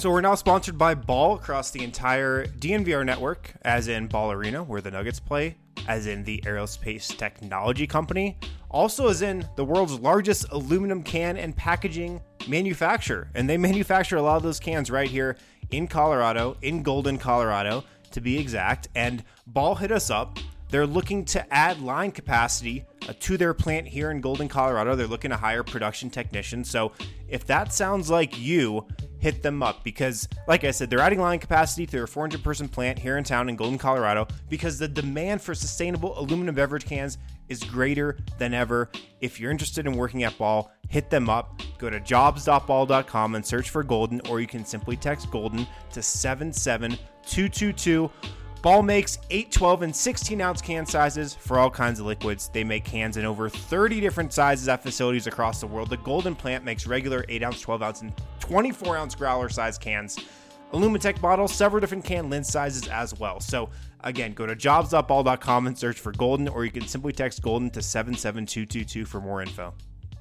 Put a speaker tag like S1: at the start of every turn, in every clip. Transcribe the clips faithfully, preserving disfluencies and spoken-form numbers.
S1: So we're now sponsored by Ball across the entire D N V R network, as in Ball Arena, where the Nuggets play, as in the Aerospace Technology Company, also as in the world's largest aluminum can and packaging manufacturer. And they manufacture a lot of those cans right here in Colorado, in Golden, Colorado, to be exact. And Ball hit us up. They're looking to add line capacity uh, to their plant here in Golden, Colorado. They're looking to hire production technicians. So if that sounds like you, hit them up, because like I said, they're adding line capacity to their four hundred person plant here in town in Golden, Colorado, because the demand for sustainable aluminum beverage cans is greater than ever. If you're interested in working at Ball, hit them up. Go to jobs dot ball dot com and search for Golden, or you can simply text Golden to seven seven two two two. Ball makes eight, twelve, and sixteen ounce can sizes for all kinds of liquids. They make cans in over thirty different sizes at facilities across the world. The Golden plant makes regular eight ounce, twelve ounce, and twenty-four ounce growler size cans. Illumitech bottles, several different can lens sizes as well. So again, go to jobs dot ball dot com and search for Golden, or you can simply text Golden to seven seven two two two for more info.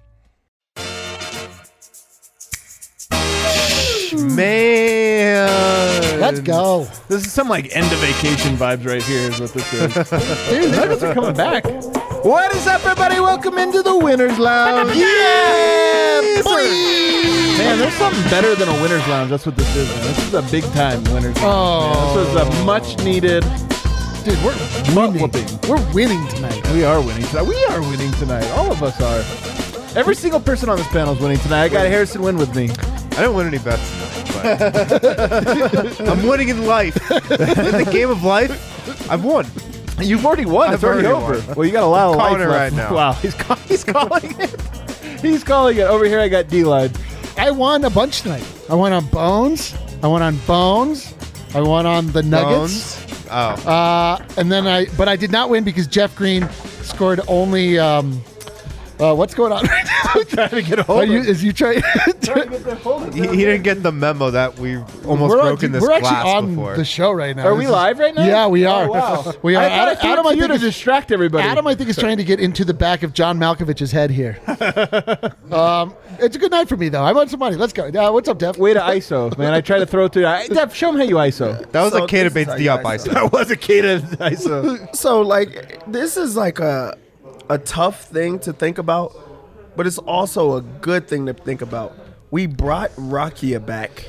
S2: Man,
S3: let's go.
S2: This is some like end of vacation vibes right here is what this is. Dude, Nuggets are coming back. What is up, everybody? Welcome into the Winners Lounge. Yeah, boy. Man, there's something better than a Winners Lounge. That's what this is, man. This is a big time Winners Lounge.
S3: Oh,
S2: man. This was a much needed.
S3: Dude, we're winning.
S2: Whooping.
S3: We're winning tonight.
S2: We are winning tonight. We are winning tonight. All of us are. Every single person on this panel is winning tonight. I got Harrison Wynn with me.
S4: I didn't win any bets tonight, but I'm winning in life. In the game of life, I've won.
S2: You've already won.
S4: I've
S2: it's already,
S4: already
S2: over.
S4: won.
S2: Well, you got a lot of
S4: calling
S2: life
S4: it
S2: left.
S4: right now.
S2: Wow, he's, call- he's calling it. He's calling it. Over here, I got D-Line.
S3: I won a bunch tonight. I won on Bones. I won on Bones. I won on the Nuggets.
S4: Bones? Oh.
S3: Uh, and then I, but I did not win because Jeff Green scored only. Um, uh, what's going on right now?
S2: I'm trying to get a hold
S3: Are
S2: of
S3: you, is you trying?
S4: He, he didn't get the memo that we've almost
S3: we're
S4: broken
S3: on,
S4: this
S3: We're
S4: glass
S3: actually on
S4: before.
S3: the show right now.
S2: Are
S3: This
S2: we
S3: is-
S2: live right now?
S3: Yeah, we are.
S2: Oh, wow.
S3: We are.
S2: I thought
S3: Adam,
S2: I threw
S3: Adam,
S2: it
S3: I
S2: to you
S3: think
S2: to
S3: is,
S2: distract everybody.
S3: Adam, I think, is trying to get into the back of John Malkovich's head here. um, it's a good night for me, though. I won some money. Let's go. Uh, what's up, Dev?
S2: Way to I S O, man. I tried to throw it to you. Dev, show him how you I S O.
S4: That was
S5: So
S4: a K to
S5: this is
S4: Bates
S5: how you
S4: Diop
S5: guys
S4: I S O.
S2: That was a K to I S O.
S5: So like this is like a a tough thing to think about, but it's also a good thing to think about. We brought Rakia back.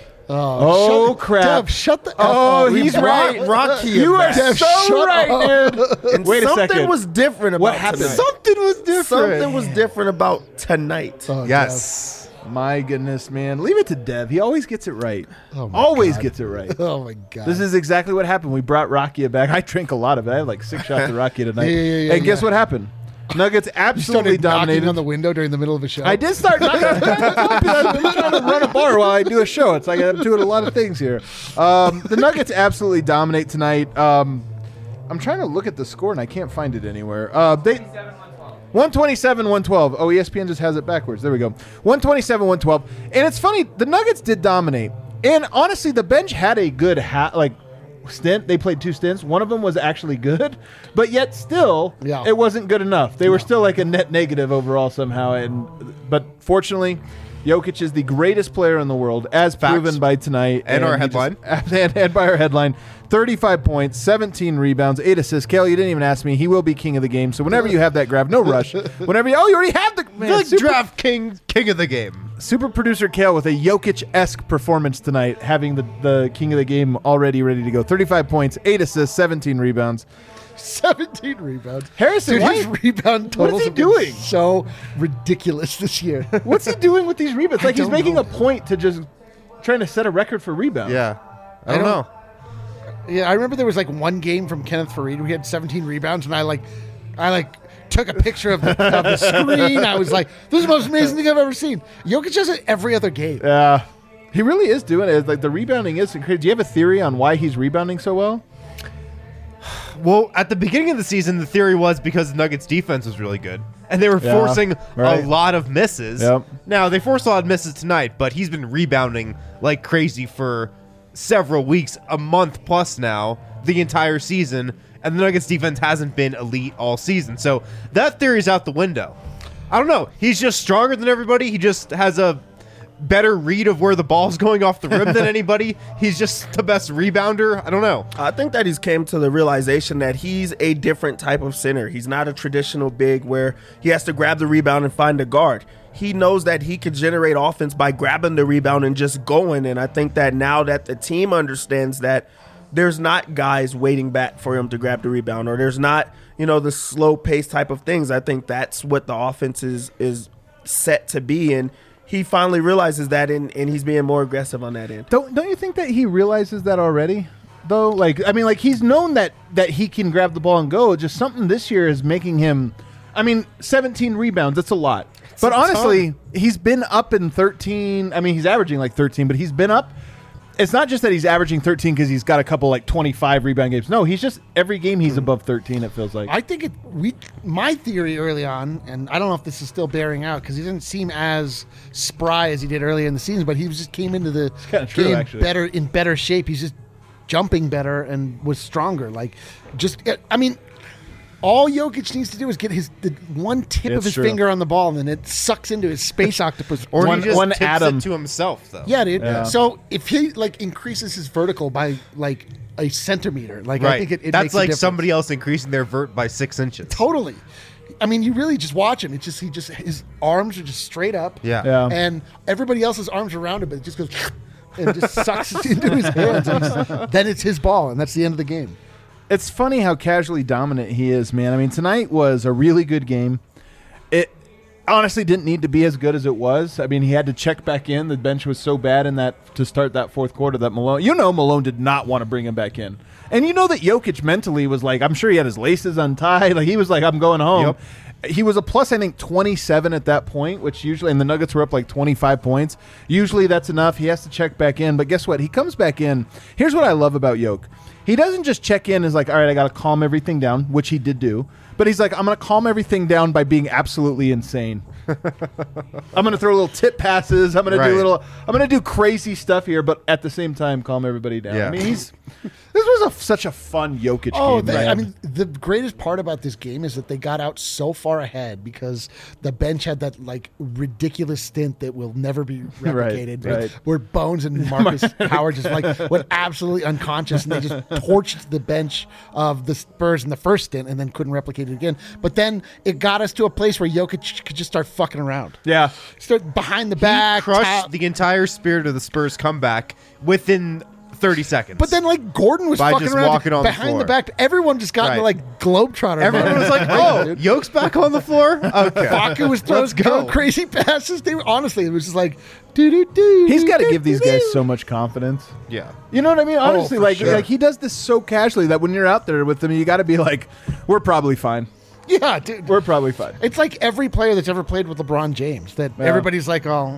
S2: Oh,
S3: shut,
S2: crap.
S3: Dev, shut the F
S2: Oh,
S3: up.
S2: he's
S5: brought
S2: right.
S5: Rakia
S2: You are
S5: back.
S3: Dev,
S2: so
S3: shut
S2: right,
S3: up.
S2: dude.
S5: And
S2: Wait a
S5: something
S2: second.
S5: was different about
S2: What happened?
S5: tonight.
S2: Something was different.
S5: Something was different about tonight.
S3: Oh,
S4: Yes.
S2: My goodness, man. Leave it to Dev. He always gets it right.
S3: Oh my
S2: always
S3: God.
S2: gets it right.
S3: Dev. Oh, my God.
S2: This is exactly what happened. We brought Rakia back. I drank a lot of it. I had like six shots of Rakia tonight.
S3: Yeah, yeah, yeah,
S2: and guess
S3: yeah.
S2: what happened? Nuggets
S3: You
S2: absolutely
S3: started knocking
S2: dominated.
S3: on the window during the middle of a show.
S2: I did start knocking on I'm trying to run a bar while I do a show. It's like I'm doing a lot of things here. Um, the Nuggets absolutely dominate tonight. Um, I'm trying to look at the score, and I can't find it anywhere. Uh, they one twenty-seven one twelve. Oh, E S P N just has it backwards. There we go. one twenty-seven one twelve. And it's funny, the Nuggets did dominate. And honestly, the bench had a good ha- like stint. They played two stints. One of them was actually good, but yet still,
S3: Yeah.
S2: it wasn't good enough. They were still like a net negative overall somehow. And but fortunately, Jokic is the greatest player in the world, as
S4: Facts.
S2: proven by tonight.
S4: And our
S2: he just-
S4: headline.
S2: and, and by our headline. thirty-five points, seventeen rebounds, eight assists. Kale, you didn't even ask me. He will be king of the game. So whenever you have that grab, no rush. Whenever you, oh, you already have the man,
S4: The
S2: super,
S4: draft king, king of the game.
S2: super producer Kale with a Jokic-esque performance tonight, having the, the king of the game already ready to go. thirty-five points, eight assists, seventeen rebounds.
S3: seventeen rebounds.
S2: Harrison,
S3: Dude,
S2: why-
S3: his rebound totals
S2: he
S3: have been
S2: doing?
S3: so ridiculous this year.
S2: What's he doing with these rebounds?
S3: I
S2: Like he's
S3: don't
S2: making
S3: know.
S2: a point to just trying to set a record for rebounds.
S4: Yeah. I
S3: I
S4: don't
S3: don't-
S4: know.
S3: Yeah, I remember there was like one game from Kenneth Farid where he had seventeen rebounds, and I like, I like took a picture of the, of the screen. I was like, "This is the most amazing thing I've ever seen." Jokic does it every other game.
S2: Yeah. He really is doing it. Like the rebounding is crazy. Do you have a theory on why he's rebounding so well?
S4: Well, at the beginning of the season, the theory was because the Nuggets' defense was really good, and they were
S2: Yeah,
S4: forcing
S2: right.
S4: a lot of misses.
S2: Yep.
S4: Now, they forced a lot of misses tonight, but he's been rebounding like crazy for several weeks, a month plus now, the entire season, and the Nuggets' defense hasn't been elite all season. So that theory's out the window. I don't know. He's just stronger than everybody. He just has a better read of where the ball's going off the rim than anybody. He's just the best rebounder. I don't know.
S5: I think that he's came to the realization that he's a different type of center. He's not a traditional big where he has to grab the rebound and find a guard. He knows that he could generate offense by grabbing the rebound and just going. And I think that now that the team understands that there's not guys waiting back for him to grab the rebound, or there's not, you know, the slow pace type of things. I think that's what the offense is, is set to be. And he finally realizes that, and, and he's being more aggressive on that end.
S2: Don't don't you think that he realizes that already? Though, like, I mean, like he's known that that he can grab the ball and go. Just something this year is making him. I mean, seventeen rebounds. That's a lot. It's but honestly, ton. He's been up in thirteen. I mean, he's averaging like thirteen, but he's been up. It's not just that he's averaging thirteen because he's got a couple like twenty-five rebound games. No, he's just every game he's above thirteen. It feels like.
S3: I think it. We my theory early on, and I don't know if this is still bearing out because he didn't seem as spry as he did earlier in the season, but he just came into the
S2: true,
S3: game
S2: actually.
S3: better in better shape. He's just jumping better and was stronger. Like, just I mean. All Jokic needs to do is get his the one tip
S2: It's
S3: of his
S2: true.
S3: finger on the ball, and then it sucks into his space octopus.
S4: Or
S2: One-
S4: he just
S2: one
S4: tips
S2: atom.
S4: it to himself, though.
S3: Yeah, dude.
S2: Yeah.
S3: So if he like increases his vertical by like a centimeter, like I
S4: Right.
S3: think it, it
S4: That's
S3: makes a
S4: like
S3: difference.
S4: somebody else increasing their vert by six inches.
S3: Totally. I mean, you really just watch him. It's just he just his arms are just straight up.
S4: Yeah.
S2: Yeah.
S3: And everybody else's arms around him, but it just goes and just sucks into his hands. And he's- then it's his ball, and that's the end of the game.
S2: It's funny how casually dominant he is, man. I mean, tonight was a really good game. It honestly didn't need to be as good as it was. I mean, he had to check back in. The bench was so bad in that to start that fourth quarter that Malone, you know, Malone did not want to bring him back in. And you know that Jokic mentally was like, I'm sure he had his laces untied. Like he was like, I'm going home.
S4: Yep.
S2: He was a plus, I think, twenty-seven at that point, which usually, and the Nuggets were up like twenty-five points. Usually that's enough. He has to check back in. But guess what? He comes back in. Here's what I love about Jokic. He doesn't just check in as like, all right, I got to calm everything down, which he did do. But he's like, I'm going to calm everything down by being absolutely insane. I'm going to throw little tip passes. I'm going
S4: Right.
S2: to do little, I'm going to do crazy stuff here, but at the same time, calm everybody down.
S4: Yeah.
S2: I mean, he's, this was a, such a fun Jokic
S3: Oh,
S2: game.
S3: the,
S2: man.
S3: I mean, the greatest part about this game is that they got out so far ahead because the bench had that like ridiculous stint that will never be replicated,
S2: right.
S3: where Bones and Marcus Howard just like went absolutely unconscious, and they just torched the bench of the Spurs in the first stint, and then couldn't replicate it again. But then it got us to a place where Jokic could just start fucking around,
S2: yeah.
S3: start behind the
S4: He
S3: back,
S4: crushed
S3: tap-
S4: the entire spirit of the Spurs comeback within thirty seconds.
S3: But then, like Gordon was
S4: By
S3: fucking
S4: just
S3: around
S4: walking on the
S3: behind the,
S4: floor.
S3: back. Everyone just got into
S4: Right.
S3: like globetrotter.
S4: everyone
S3: mode.
S4: was like, "Oh, Yoke's back on the floor." Okay,
S3: Baca was throwing,
S4: Let's go.
S3: throwing crazy passes. They were, honestly, it was just like, doo doo doo.
S2: He's got to give these guys so much confidence.
S4: Yeah,
S2: You know what I mean? Honestly,
S3: for
S2: like
S3: sure.
S2: like he does this so casually that when you're out there with him, you got to be like, we're probably fine.
S3: Yeah, dude.
S2: We're probably fine.
S3: It's like every player that's ever played with LeBron James. That
S2: Yeah.
S3: everybody's like, oh,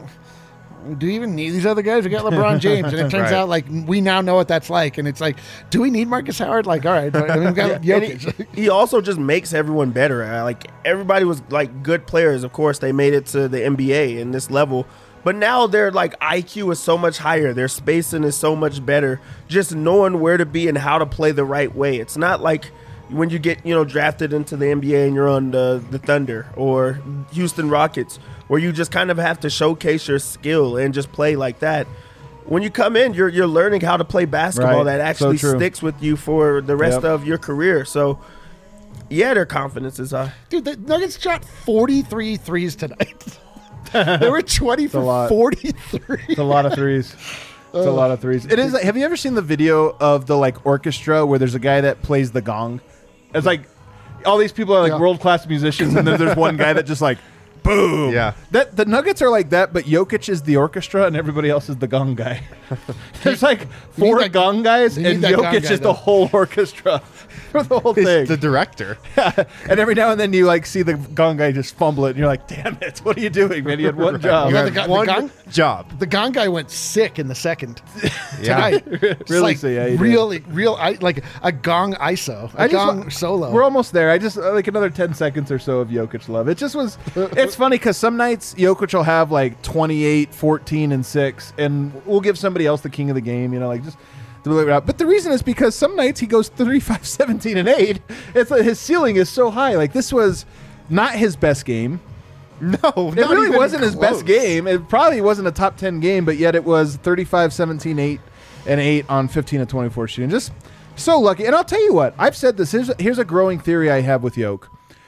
S3: do we even need these other guys? We got LeBron James, and it turns
S4: Right.
S3: out like we now know what that's like. And it's like, do we need Marcus Howard? Like, all right, I mean, we got
S5: And he,
S3: Jokic.
S5: he also just makes everyone better. Uh, Like everybody was like good players. Of course, they made it to the N B A in this level, but now their like I Q is so much higher. Their spacing is so much better. Just knowing where to be and how to play the right way. It's not like when you get you know drafted into the N B A and you're on the the Thunder or Houston Rockets, where you just kind of have to showcase your skill and just play like that. When you come in, you're you're learning how to play basketball
S2: Right.
S5: that actually
S2: So true.
S5: sticks with you for the rest
S2: Yep.
S5: of your career. So, yeah, their confidence is high.
S3: Dude, the Nuggets shot forty-three threes tonight. They were twenty
S2: a
S3: for
S2: lot.
S3: forty-three.
S2: It's a lot of threes. It's a lot of threes. It is. Like, have you ever seen the video of the like orchestra where there's a guy that plays the gong? It's like all these people are like
S3: Yeah.
S2: world class musicians, and then there's one guy that just like boom.
S4: Yeah.
S2: That the Nuggets are like that, but Jokic is the orchestra, and everybody else is the gong guy. There's like four
S3: that-
S2: gong guys,
S3: you need
S2: and
S3: that gong
S2: Jokic
S3: guy,
S2: is
S3: though.
S2: the whole orchestra for the whole
S4: He's
S2: thing.
S4: the director.
S2: And every now and then you like see the gong guy just fumble it, and you're like, "Damn it! What are you doing, man? You had one job."
S3: You
S4: You
S3: know,
S4: had
S3: the, guy,
S4: one
S3: the, gong,
S4: job.
S3: the gong guy went sick in the second
S4: Yeah.
S3: tonight. It's
S2: Really
S3: like
S2: so, yeah, he did.
S3: real, real, I, like a gong I S O, a
S2: I just
S3: gong
S2: wa-
S3: solo.
S2: We're almost there. I just uh, like another ten seconds or so of Jokic love. It just was. It's funny because some nights Jokic will have like twenty-eight, fourteen, and six, and we'll give somebody else the king of the game. You know, like just. to believe it out. But the reason is because some nights he goes thirty-five, seventeen, and eight. It's like his ceiling is so high. Like this was not his best game.
S4: No,
S2: It really wasn't his best game. It probably wasn't a top ten game, but yet it was thirty-five, seventeen, eight, and eight on fifteen of twenty-four shooting. Just so lucky. And I'll tell you what, I've said this. Here's, here's a growing theory I have with Yoke.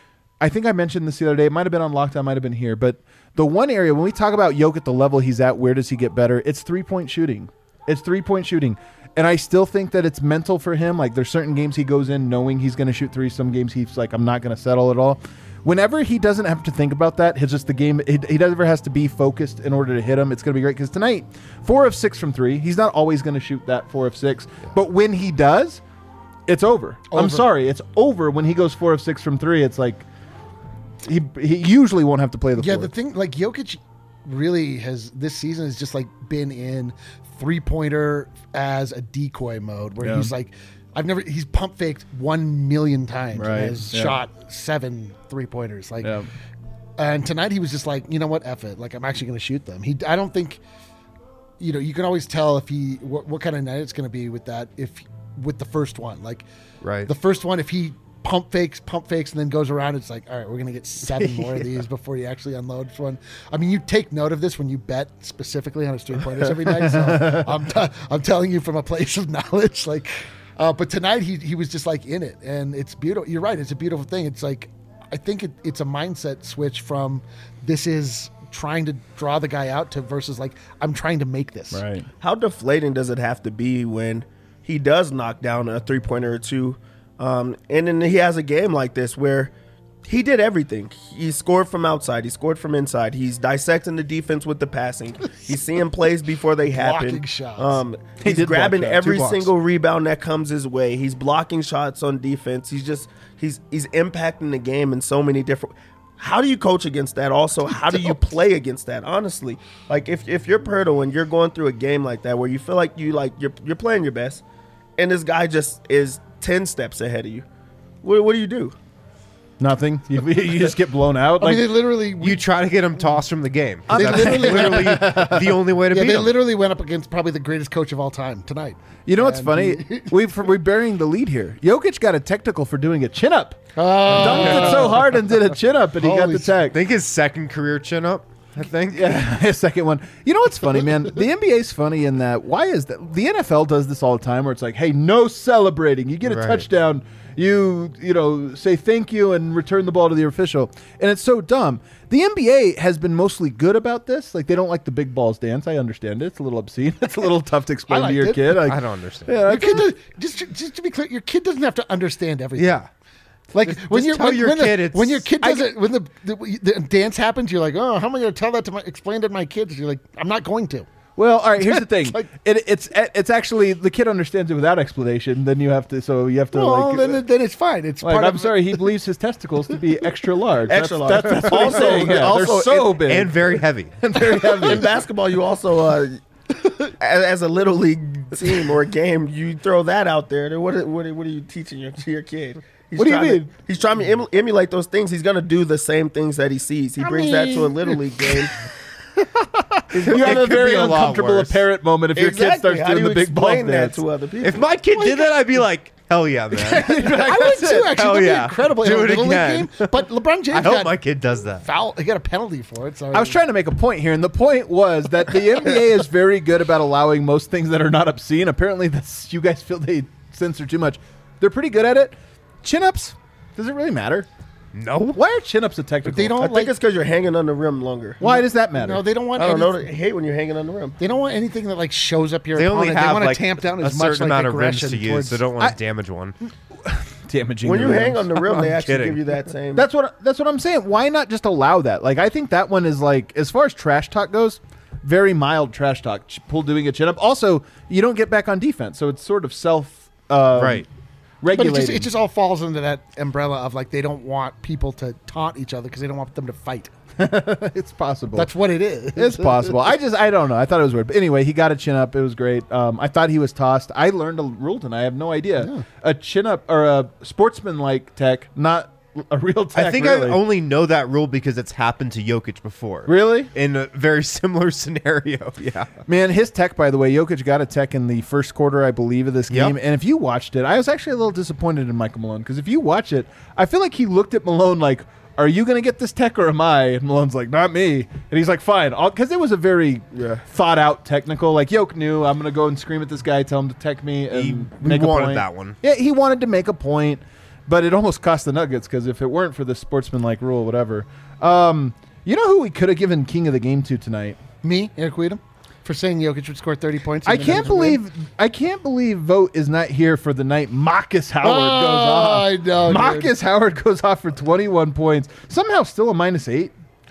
S2: I think I mentioned this the other day. It might have been on Lockdown, might have been here. But the one area, when we talk about Yoke at the level he's at, where does he get better? It's three-point shooting. It's three-point shooting. And I still think that it's mental for him. Like, there's certain games he goes in knowing he's going to shoot three. Some games he's like, I'm not going to settle at all. Whenever he doesn't have to think about that, it's just the game. He, he never has to be focused in order to hit him. It's going to be great because tonight, four of six from three. He's not always going to shoot that four of six. But when he does, it's over.
S3: Over.
S2: I'm sorry. It's over when he goes four of six from three. It's like he he usually won't have to play the
S3: Yeah,
S2: fourth.
S3: the thing, like Jokic really has, this season has just like been in three-pointer as a decoy mode where
S2: Yeah.
S3: he's like, I've never, he's pump faked one million times
S2: Right,
S3: and has
S2: yeah.
S3: shot seven three-pointers. Like,
S2: Yeah.
S3: and tonight he was just like, you know what, F it. Like, I'm actually going to shoot them. He, I don't think, you know, you can always tell if he, what, what kind of night it's going to be with that, if, with the first one. Like,
S4: Right.
S3: the first one, if he pump fakes, pump fakes, and then goes around, it's like, all right, we're going to get seven more of these before he actually unloads one. I mean, you take note of this when you bet specifically on his three-pointers every night. So I'm, t- I'm telling you from a place of knowledge. Like, uh, but tonight he he was just like in it, and it's beautiful. You're right. It's a beautiful thing. It's like, I think it, it's a mindset switch from this is trying to draw the guy out to versus like, I'm trying to make this.
S2: Right.
S5: How deflating does it have to be when he does knock down a three pointer or two, um, and then he has a game like this where he did everything. He scored from outside. He scored from inside. He's dissecting the defense with the passing. He's seeing plays before they happen.
S3: Blocking shots.
S5: Um,
S2: He
S5: he's
S2: did block
S5: grabbing
S2: shots, two
S5: every
S2: blocks.
S5: single rebound that comes his way. He's blocking shots on defense. He's just he's he's impacting the game in so many different. How do you coach against that? Also, how do you play against that? Honestly, like if if you're Pirtle and you're going through a game like that where you feel like you like you're you're playing your best, and this guy just is ten steps ahead of you, what what do you do?
S2: Nothing. You, you just get blown out.
S3: I
S2: Like,
S3: mean, they literally,
S4: You try to get him tossed from the game.
S3: They
S4: That's
S3: literally-
S4: literally the only way to
S3: yeah,
S4: beat
S3: they
S4: him.
S3: literally went up against probably the greatest coach of all time tonight.
S2: you know what's
S3: And
S2: funny?
S3: he-
S2: We've, we're burying the lead here. Jokic got a technical for doing a chin up.
S3: Oh,
S2: Dunked it so hard and did a chin up, and he got
S3: Holy
S2: the tech.
S4: I think his second career chin up. I think.
S2: Yeah, his second one. You know what's funny, man? The N B A's funny in that. Why is that? The N F L does this all the time, where it's like, hey, no celebrating. You get a
S4: Right.
S2: touchdown, you you know say thank you and return the ball to the official, and it's so dumb. The N B A has been mostly good about this. Like, they don't like the big balls dance. I understand it. It's a little obscene. It's a little tough to explain
S3: I
S2: to your
S3: liked it.
S2: kid. Like,
S4: I don't understand.
S2: Yeah,
S3: your
S2: I
S3: kid does, just, just to be clear, your kid doesn't have to understand everything.
S4: Yeah.
S3: Like
S4: Just-
S3: when
S4: just
S3: you're
S4: tell
S3: when,
S4: your
S3: when
S4: kid
S3: the,
S4: it's-
S3: when your kid
S2: I
S3: does it when the, the the dance happens, you're like, oh, how am I going to tell that to my explain to my kids? You're like, I'm not going to.
S2: Well, all right. Here's the thing.
S3: Like-
S2: it, it's it's actually the kid understands it without explanation. Then you have to. So you have to
S3: Well,
S2: like.
S3: then it- then it's fine. It's
S2: like,
S3: part
S2: I'm
S3: of
S2: sorry, he believes his testicles to be extra large.
S5: Extra
S2: That's-
S5: large.
S2: That's, that's what
S5: Also-
S2: I'm saying. Yeah,
S5: also,
S2: they're so
S5: and-
S2: big
S4: And very heavy.
S2: and very heavy.
S5: In basketball, you also uh, as, as a little league team or a game, you throw that out there. Then what are- what are, what are you teaching your your kid? He's
S2: What do you
S5: trying
S2: mean?
S5: To, he's trying to em- emulate those things. He's gonna do the same things that he sees. He
S3: I
S5: brings that to a
S3: mean-
S5: little league game.
S2: You have
S4: It
S2: a
S4: could
S2: very
S4: be a lot
S2: uncomfortable
S4: worse.
S2: apparent moment if your kid
S5: Exactly.
S2: starts
S5: How
S2: doing
S5: do
S2: the
S5: you
S2: big ball
S5: explain that
S2: dance.
S5: to other people?
S4: If my kid did that, I'd be like, hell yeah, man.
S3: I would too. Actually,
S4: Hell
S3: that'd
S4: yeah.
S3: be incredible.
S4: Do
S3: in a
S4: it
S3: little league
S4: again.
S3: game. But LeBron James
S4: I hope
S3: got
S4: my kid does that.
S3: foul. He got a penalty for it. So
S2: I was trying to make a point here, and the point was that the N B A is very good about allowing most things that are not obscene. Apparently, that's you guys feel they censor too much. They're pretty good at it. Chin ups. Does it really matter?
S4: No.
S2: Why are chin ups a technical?
S3: They don't
S5: I think
S3: like.
S5: it's because you're hanging on the rim longer.
S2: Why does that matter?
S3: No, they don't want.
S5: I don't know.
S3: anything-
S5: I hate when you're hanging on the rim.
S3: They don't want anything that like shows up your
S4: They only
S3: opponent.
S4: have
S3: they want
S4: like
S3: to tamp down
S4: a
S3: as much
S4: certain
S3: like
S4: amount of rims
S3: aggression
S4: to use,
S3: towards.
S4: so don't want
S2: I-
S4: to damage one.
S2: Damaging.
S5: When
S2: the
S5: you
S2: rims.
S5: hang on the rim, they
S4: I'm
S5: actually
S4: kidding.
S5: give you that same.
S2: That's what that's what I'm saying. Why not just allow that? Like, I think that one is like, as far as trash talk goes, very mild trash talk. Ch- Pull doing a chin up. Also, you don't get back on defense, so it's sort of self uh,
S4: Right.
S3: But it
S2: regulating.
S3: just, it just all falls into that umbrella of like they don't want people to taunt each other because they don't want them to fight.
S2: it's possible.
S3: That's what it is.
S2: It's possible. I just, I don't know. I thought it was weird. But anyway, he got a chin up. It was great. Um, I thought he was tossed. I learned a rule tonight. I have no idea. A chin up or a sportsman-like tech, not a real tech.
S4: I think
S2: really.
S4: I only know that rule because it's happened to Jokic before.
S2: Really?
S4: In a very similar scenario. Yeah.
S2: Man, his tech, by the way, Jokic got a tech in the first quarter, I believe, of this
S4: Yep.
S2: game. And if you watched it, I was actually a little disappointed in Michael Malone because if you watch it, I feel like he looked at Malone like, are you going to get this tech or am I? And Malone's like, not me. And he's like, fine. Because it was a very
S5: Yeah.
S2: thought out technical. Like, Yoke knew I'm going to go and scream at this guy, tell him to tech me and
S4: He
S2: make a
S4: wanted
S2: point.
S4: that one.
S2: Yeah, he wanted to make a point, but it almost cost the Nuggets because if it weren't for this sportsmanlike rule, whatever. Um, you know who we could have given king of the game to tonight?
S3: Me, Eric Weedham, for saying Jokic would score thirty points.
S2: I
S3: and the
S2: can't
S3: Nuggets would win.
S2: believe I can't believe Vote is not here for the night Marcus Howard
S3: Oh,
S2: goes off.
S3: I know, dude.
S2: Marcus Howard goes off for twenty-one points. Somehow still a minus eight.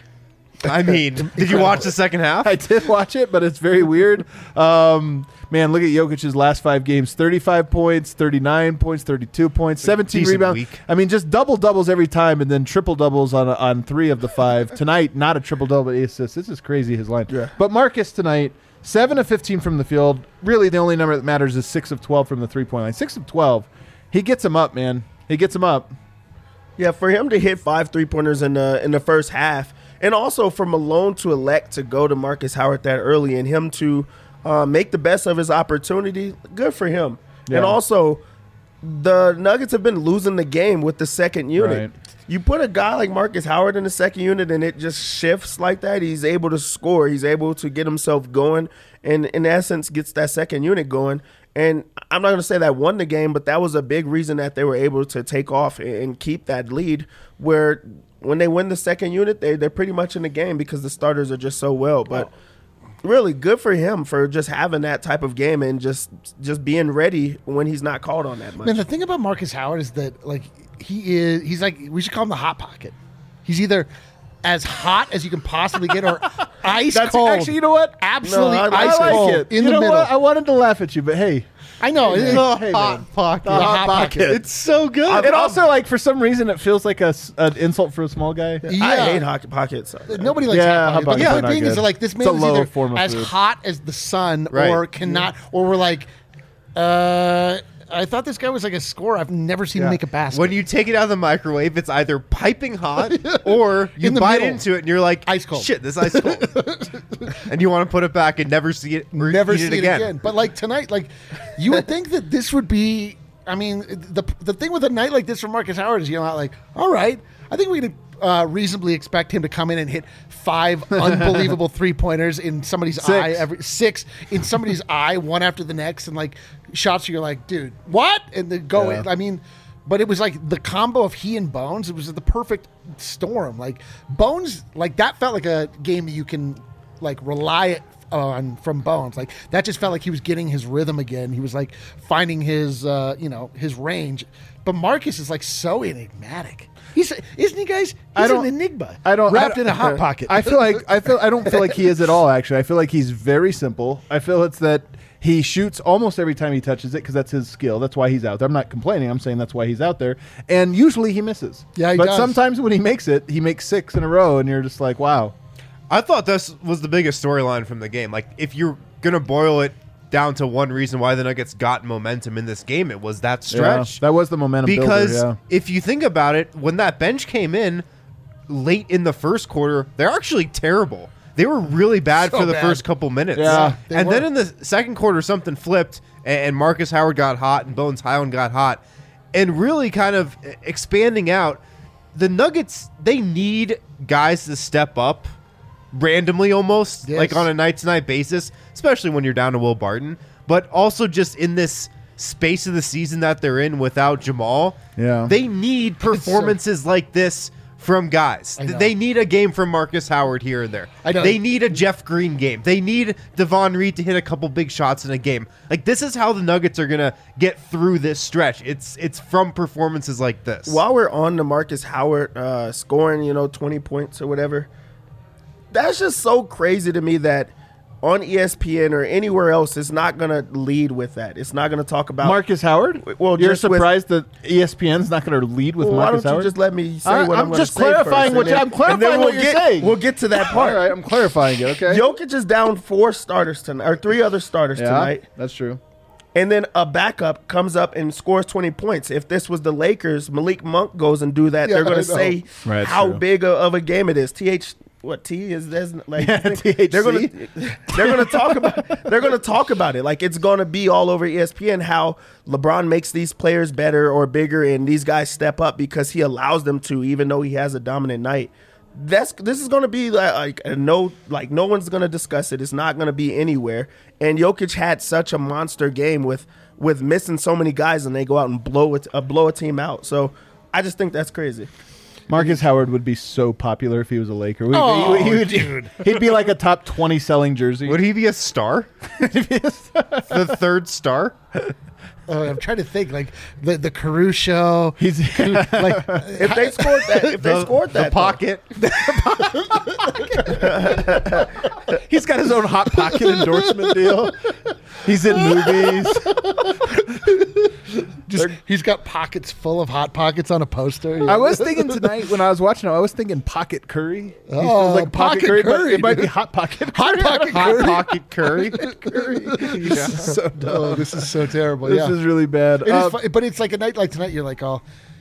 S4: I mean, did you watch the second half?
S2: I did watch it, but it's very weird. Um, man, look at Jokic's last five games: thirty-five points, thirty-nine points, thirty-two points, seventeen
S4: Decent
S2: rebounds.
S4: week.
S2: I mean, just double doubles every time, and then triple doubles on on three of the five. Tonight, not a triple double, but eight assists. This is crazy. His line.
S5: Yeah.
S2: But Marcus tonight, seven of fifteen from the field. Really, the only number that matters is six of twelve from the three point line. Six of twelve. He gets him up, man. He gets him up.
S5: Yeah, for him to hit five three pointers in the in the first half, and also for Malone to elect to go to Marcus Howard that early, and him to uh, make the best of his opportunity, good for him.
S2: Yeah.
S5: And also, the Nuggets have been losing the game with the second unit.
S2: Right.
S5: You put a guy like Marcus Howard in the second unit, and it just shifts like that. He's able to score. He's able to get himself going, and in essence, gets that second unit going. And I'm not going to say that won the game, but that was a big reason that they were able to take off and keep that lead, where when they win the second unit, they, they're pretty much in the game because the starters are just so well. But really good for him for just having that type of game and just just being ready when he's not called on that much.
S3: Man, the thing about Marcus Howard is that like he is he's like we should call him the hot pocket. He's either as hot as you can possibly get or ice
S2: That's
S3: cold.
S2: actually, you know what?
S3: Absolutely
S5: No, I like
S3: ice
S2: I
S3: cold
S2: like it.
S3: in
S2: you
S3: the
S2: know
S3: middle.
S2: what? I wanted to laugh at you, but hey.
S3: I know.
S2: Hey,
S3: it-
S2: man.
S3: it-
S2: Hey,
S4: hot
S2: man.
S4: pocket.
S2: The hot
S3: hot
S2: pocket.
S3: pocket.
S4: It's so good.
S2: It also, like, for some reason, it feels like a, s- an insult for a small guy.
S3: yeah.
S5: I hate hockey pockets.
S3: Nobody likes
S2: Yeah,
S3: hot pockets.
S2: hot
S3: But the
S2: pockets
S3: point
S2: are
S3: being
S2: not
S3: is
S2: good.
S3: like this
S2: It's
S3: man
S2: a
S3: is
S2: low
S3: either
S2: form of
S3: as
S2: food.
S3: hot as the sun
S4: Right.
S3: or cannot, or we're like, uh, I thought this guy was like a scorer. I've never seen him
S2: Yeah.
S3: make a basket.
S4: When you take it out of the microwave, it's either piping hot or you
S3: In the
S4: bite
S3: middle.
S4: into it and you're like,
S3: Ice cold.
S4: shit, this ice cold. And you want to put it back and never see it or
S3: never
S4: eat
S3: see
S4: it again.
S3: But like tonight, like you would think that this would be. I mean, the the thing with a night like this for Marcus Howard is, you know, like, all right, I think we could uh, reasonably expect him to come in and hit five unbelievable three pointers in somebody's
S2: Six.
S3: eye, every six in somebody's eye, one after the next, and like shots you're like, dude, what? And then go
S2: Yeah.
S3: in. I mean. But it was like the combo of he and Bones. It was the perfect storm. Like Bones, like that felt like a game that you can like rely on from Bones. Like that just felt like he was getting his rhythm again. He was like finding his, uh, you know, his range. But Marcus is like so enigmatic. He's isn't he, guys? He's
S2: I don't-
S3: an enigma.
S2: I don't
S3: wrapped
S2: I,
S3: in a hot pocket.
S2: I feel like I feel I don't feel like he is at all. Actually, I feel like he's very simple. I feel it's that he shoots almost every time he touches it because that's his skill. That's why he's out there. I'm not complaining. I'm saying that's why he's out there. And usually he misses.
S3: Yeah, he
S2: but
S3: does.
S2: sometimes when he makes it, he makes six in a row, and you're just like, wow.
S4: I thought this was the biggest storyline from the game. Like, if you're going to boil it down to one reason why the Nuggets got momentum in this game, it was that stretch.
S2: Yeah, that was the momentum
S4: Because
S2: builder,
S4: if you think about it, when that bench came in late in the first quarter, they're actually terrible. They were really bad
S3: So
S4: for the
S3: bad.
S4: first couple minutes.
S2: Yeah,
S3: they
S4: and
S3: were.
S4: then in the second quarter, something flipped, and, and Marcus Howard got hot, and Bones Highland got hot, and really kind of expanding out. The Nuggets, they need guys to step up randomly almost,
S3: Yes.
S4: like on a night-to-night basis, especially when you're down to Will Barton, but also just in this space of the season that they're in without Jamal.
S2: Yeah.
S4: They need performances like this from guys.
S3: I know.
S4: They need a game from Marcus Howard here and there.
S3: I know.
S4: They need a Jeff Green game. They need Devon Reed to hit a couple big shots in a game. Like, this is how the Nuggets are going to get through this stretch. It's it's from performances like this.
S5: While we're on the Marcus Howard uh, scoring, you know, twenty points or whatever, that's just so crazy to me that on E S P N or anywhere else, it's not going to lead with that. It's not going to talk about
S2: Marcus Howard.
S5: Well,
S2: you're
S5: just with-
S2: surprised that E S P N's not going to lead with
S5: Well, why
S2: Marcus
S5: don't you
S2: Howard?
S5: just let me say
S2: I-
S5: what
S2: I'm
S5: I'm, gonna
S2: just
S5: say
S2: clarifying
S5: first,
S2: what
S5: and
S2: you-
S5: then-
S2: I'm clarifying
S5: and then
S2: what
S5: we'll
S2: you're
S5: get,
S2: saying.
S5: We'll get to that
S2: All
S5: part.
S2: right, I'm clarifying it. Okay.
S5: Jokic is down four starters tonight, or three other starters
S2: yeah,
S5: tonight.
S2: that's true.
S5: And then a backup comes up and scores twenty points. If this was the Lakers, Malik Monk goes and do that.
S3: Yeah,
S5: They're going
S3: I
S5: to
S3: know.
S5: say
S2: Right,
S5: how
S2: true.
S5: big a- of a game it is. T H what T is there's like
S2: Yeah,
S5: they're
S2: T H C.
S5: gonna they're gonna talk about they're gonna talk about it. Like it's gonna be all over E S P N how LeBron makes these players better or bigger, and these guys step up because he allows them to, even though he has a dominant night. That's this is gonna be like, like a no like no one's gonna discuss it. It's not gonna be anywhere. And Jokic had such a monster game with with missing so many guys, and they go out and blow it uh, blow a team out. So I just think that's crazy.
S2: Marcus Howard would be so popular if he was a Laker. We-
S3: Oh,
S2: he, he would,
S3: dude.
S2: He'd be like a top twenty selling jersey.
S4: Would he be a star? The third star?
S3: Oh, I'm trying to think like the the Caruso.
S2: He's
S3: Like
S5: If they scored that, if they scored that,
S4: The
S5: though.
S4: pocket.
S2: he's got his own hot pocket endorsement deal. He's in movies.
S3: just he's got pockets full of hot pockets on a poster.
S2: I was thinking tonight when I was watching him, I was thinking Pocket Curry. He
S3: Oh,
S2: feels
S3: Pocket
S2: but
S3: Curry,
S2: it might be
S3: dude.
S2: Hot Pocket.
S3: Hot
S2: Curry.
S3: Pocket
S4: Hot
S3: Curry.
S4: pocket curry.
S2: Curry. He's so dumb.
S3: Oh, this is so terrible.
S2: This
S3: yeah.
S2: is really bad.
S3: It is
S2: Uh,
S3: fu- but it's like a night like tonight. You're like, oh,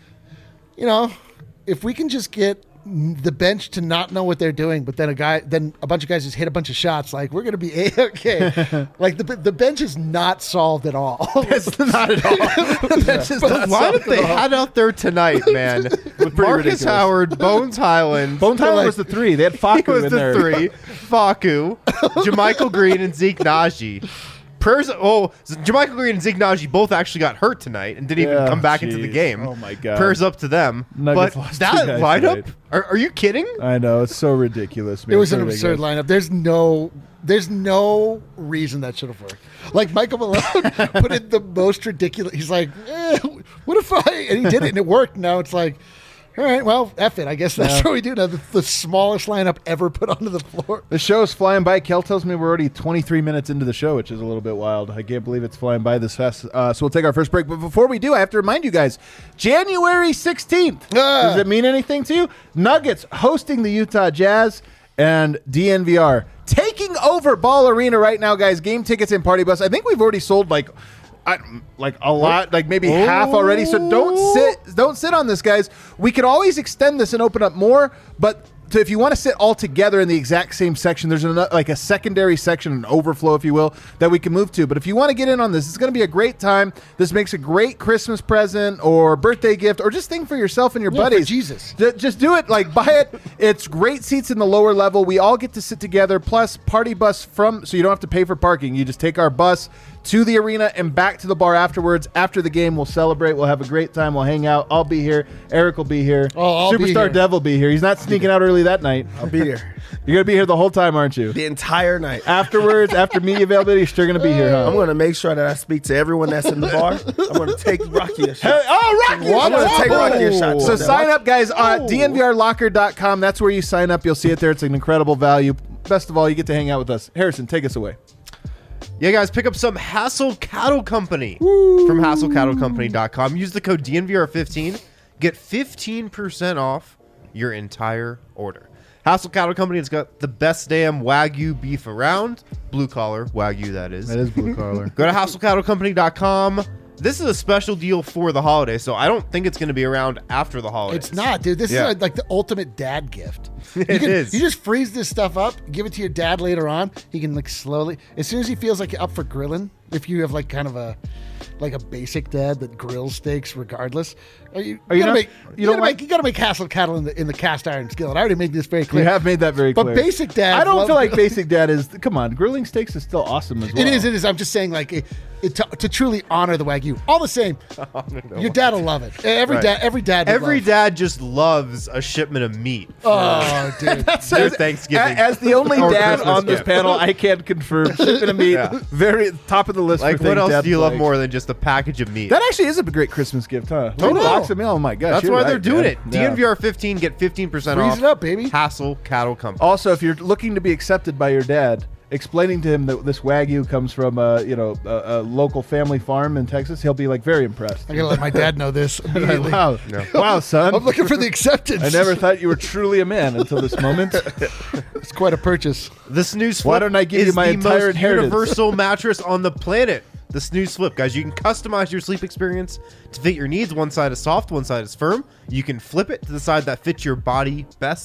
S3: you know, if we can just get the bench to not know what they're doing, but then a guy, then a bunch of guys just hit a bunch of shots. Like we're gonna be a okay. Like the the bench is not solved at all.
S2: It's not at all. That's just
S4: The
S2: not
S4: lineup
S2: solid
S4: they
S2: at all.
S4: had out there tonight, man. Marcus
S2: ridiculous.
S4: Howard, Bones Highland.
S2: Bone Tyler
S3: like-
S2: was the three. They had
S4: He
S2: Faku
S4: was
S2: in
S4: the
S2: there.
S4: three. Faku, Jermichael Green, and Zeke Naji. Prayers. Oh, Jermichael Green and Zeke Naji both actually got hurt tonight and didn't
S2: Yeah,
S4: even come back into the
S2: jeez.
S4: game.
S2: Oh, my God.
S4: Prayers up to them.
S2: Nuggets
S4: but
S2: lost two
S4: that
S2: guys
S4: lineup?
S2: tonight.
S4: Are, are you kidding?
S2: I know, it's so ridiculous, man.
S3: It was
S2: It's
S3: an
S2: so
S3: absurd
S2: ridiculous.
S3: lineup. There's no, there's no reason that should have worked. Like Michael Malone put in the most ridiculous. He's like, eh, what if I? And he did it, and it worked. Now it's like, all right, well, F it. I guess that's
S2: Yeah.
S3: what we do now. The, the smallest lineup ever put onto the floor.
S2: The show's flying by. Kel tells me we're already twenty-three minutes into the show, which is a little bit wild. I can't believe it's flying by this fast. Uh, so we'll take our first break. But before we do, I have to remind you guys, January sixteenth.
S3: Ah.
S2: Does it mean anything to you? Nuggets hosting the Utah Jazz and D N V R taking over Ball Arena right now, guys. Game tickets and party bus. I think we've already sold like I, like a lot, like maybe half already. So don't sit, don't sit on this, guys. We could always extend this and open up more, but to, if you want to sit all together in the exact same section, there's an, like a secondary section, an overflow, if you will, that we can move to. But if you want to get in on this, it's going to be a great time. This makes a great Christmas present or birthday gift or just thing for yourself and your
S3: Yeah, for
S2: buddies.
S3: Jesus.
S2: Ju- Just do it. Like, buy it. It's great seats in the lower level. We all get to sit together. Plus, party bus from, so you don't have to pay for parking. You just take our bus to the arena and back to the bar afterwards. After the game, we'll celebrate. We'll have a great time. We'll hang out. I'll be here. Eric will be here.
S3: Oh, I'll be
S2: Superstar
S3: here.
S2: Dev will be here. He's not sneaking out early that night.
S5: I'll be here
S2: You're going to be here the whole time, aren't you?
S5: the entire night.
S2: Afterwards, after media availability, you're still going to be here, huh?
S5: I'm going to make sure that I speak to everyone that's in the bar. I'm going to take Rocky a shot.
S2: Oh, Rocky!
S5: I'm going to take Rocky a shot.
S2: So
S5: too.
S2: sign up, guys, at D N V R locker dot com. That's where you sign up. You'll see it there. It's an incredible value. Best of all, you get to hang out with us. Harrison, take us away.
S4: Yeah, guys, pick up some Hassel Cattle Company from hassel cattle company dot com. Use the code D N V R fifteen. Get fifteen percent off your entire order. Hassel Cattle Company has got the best damn Wagyu beef around. Blue collar Wagyu, that is.
S2: That is blue collar.
S4: Go to hassel cattle company dot com. This is a special deal for the holidays, so I don't think it's going to be around after the holidays.
S3: It's not, dude. This
S4: Yeah.
S3: is like the ultimate dad gift.
S4: It
S3: you can,
S4: is.
S3: You just freeze this stuff up, give it to your dad later on. He can like slowly, as soon as he feels like you're up for grilling. If you have like kind of a, like a basic dad that grills steaks regardless. Are you?
S2: Are
S3: you,
S2: you
S3: gotta
S2: not-
S3: make.
S2: you
S3: You,
S2: don't
S3: gotta
S2: like-
S3: make. You gotta make Hassel cattle in the in the cast iron skillet. I already made this very clear.
S2: You have made that very
S3: But
S2: clear.
S3: basic dad.
S2: I don't
S3: love
S2: feel like
S3: grilling.
S2: basic dad is. Come on, grilling steaks is still awesome as well.
S3: It is. It is. I'm just saying, like, it, it, to, to truly honor the Wagyu. All the same, your dad will love it. Every
S4: Right.
S3: dad. Every dad. would
S4: Every
S3: love.
S4: dad just loves a shipment of meat.
S3: Oh, dude.
S4: Their Thanksgiving.
S2: A- As the only
S4: Or
S2: dad
S4: Christmas
S2: on this
S4: gift.
S2: panel, I can confirm shipping a meat.
S4: Yeah.
S2: Very top of the list.
S4: Like,
S2: for
S4: what
S2: things
S4: else
S2: dads
S4: do you love
S2: like.
S4: more than just a package of meat?
S2: That actually is a great Christmas gift, huh?
S3: I
S2: Little
S3: know.
S2: box of meal. Oh my gosh,
S4: That's
S2: you're
S4: why
S2: right,
S4: they're doing
S2: man.
S4: it. D N V R fifteen, get fifteen percent
S3: Freeze
S4: off.
S3: it up, baby.
S4: Hassel Cattle Company.
S2: Also, if you're looking to be accepted by your dad, explaining to him that this Wagyu comes from a you know a, a local family farm in Texas, he'll be like very impressed.
S3: I gotta let my dad know this immediately.
S2: wow, wow, son!
S3: I'm looking for the acceptance.
S2: I never thought you were truly a man until this moment.
S3: It's quite a purchase.
S4: The Snooze Flip
S2: Why don't I give you
S4: is
S2: my
S4: the
S2: entire
S4: most
S2: inheritance?
S4: universal mattress on the planet. The Snooze Flip, guys. You can customize your sleep experience to fit your needs. One side is soft, one side is firm. You can flip it to the side that fits your body best.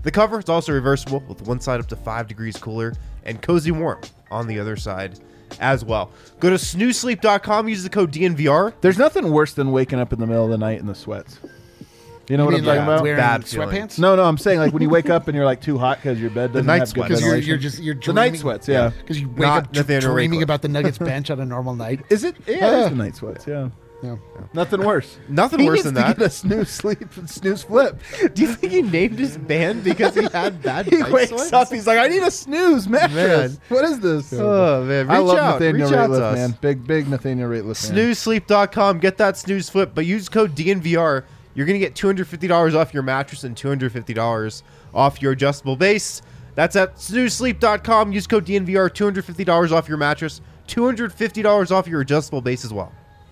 S4: The cover is also reversible with one side up to five degrees cooler and cozy warm on the other side as well. Go to snooze sleep dot com, use the code D N V R.
S2: There's nothing worse than waking up in the middle of the night in the sweats. You know
S3: You
S2: what
S3: mean,
S2: I'm talking
S3: like,
S2: about?
S3: wearing
S4: Bad feeling.
S3: sweatpants?
S2: No, no, I'm saying like when you wake up and you're like too hot because your bed doesn't
S4: night
S2: have good
S4: sweats.
S3: Because you're,
S2: ventilation.
S3: you're just you're
S2: the
S3: dreaming,
S2: night sweats, yeah.
S3: Because you wake
S4: Not
S3: up dr-
S4: Nathaniel
S3: dreaming
S4: Ratcliffe.
S3: about the Nuggets bench on a normal night.
S2: Is it? Yeah,
S3: Yeah.
S2: it's the night sweats. Yeah,
S3: Yeah.
S2: nothing worse.
S4: Nothing
S2: He
S4: worse
S2: needs
S4: than
S2: to
S4: that.
S2: Get a snooze sleep and snooze flip.
S4: Do you think he named his band because he had bad
S2: He
S4: night
S2: wakes
S4: sweats?
S2: up. He's like, I need a snooze mattress.
S4: Man.
S2: What is this?
S4: Oh, man. Reach
S2: I love
S4: out.
S2: Nathaniel
S4: Reach out to
S2: Rateliff,
S4: us.
S2: man. Big, big Nathaniel Rateliff. fan.
S4: snooze sleep dot com. Get that snooze flip, but use code D N V R. You're going to get two hundred fifty dollars off your mattress and two hundred fifty dollars off your adjustable base. That's at snooze sleep dot com. Use code D N V R. two hundred fifty dollars off your mattress, two hundred fifty dollars off your adjustable base as well.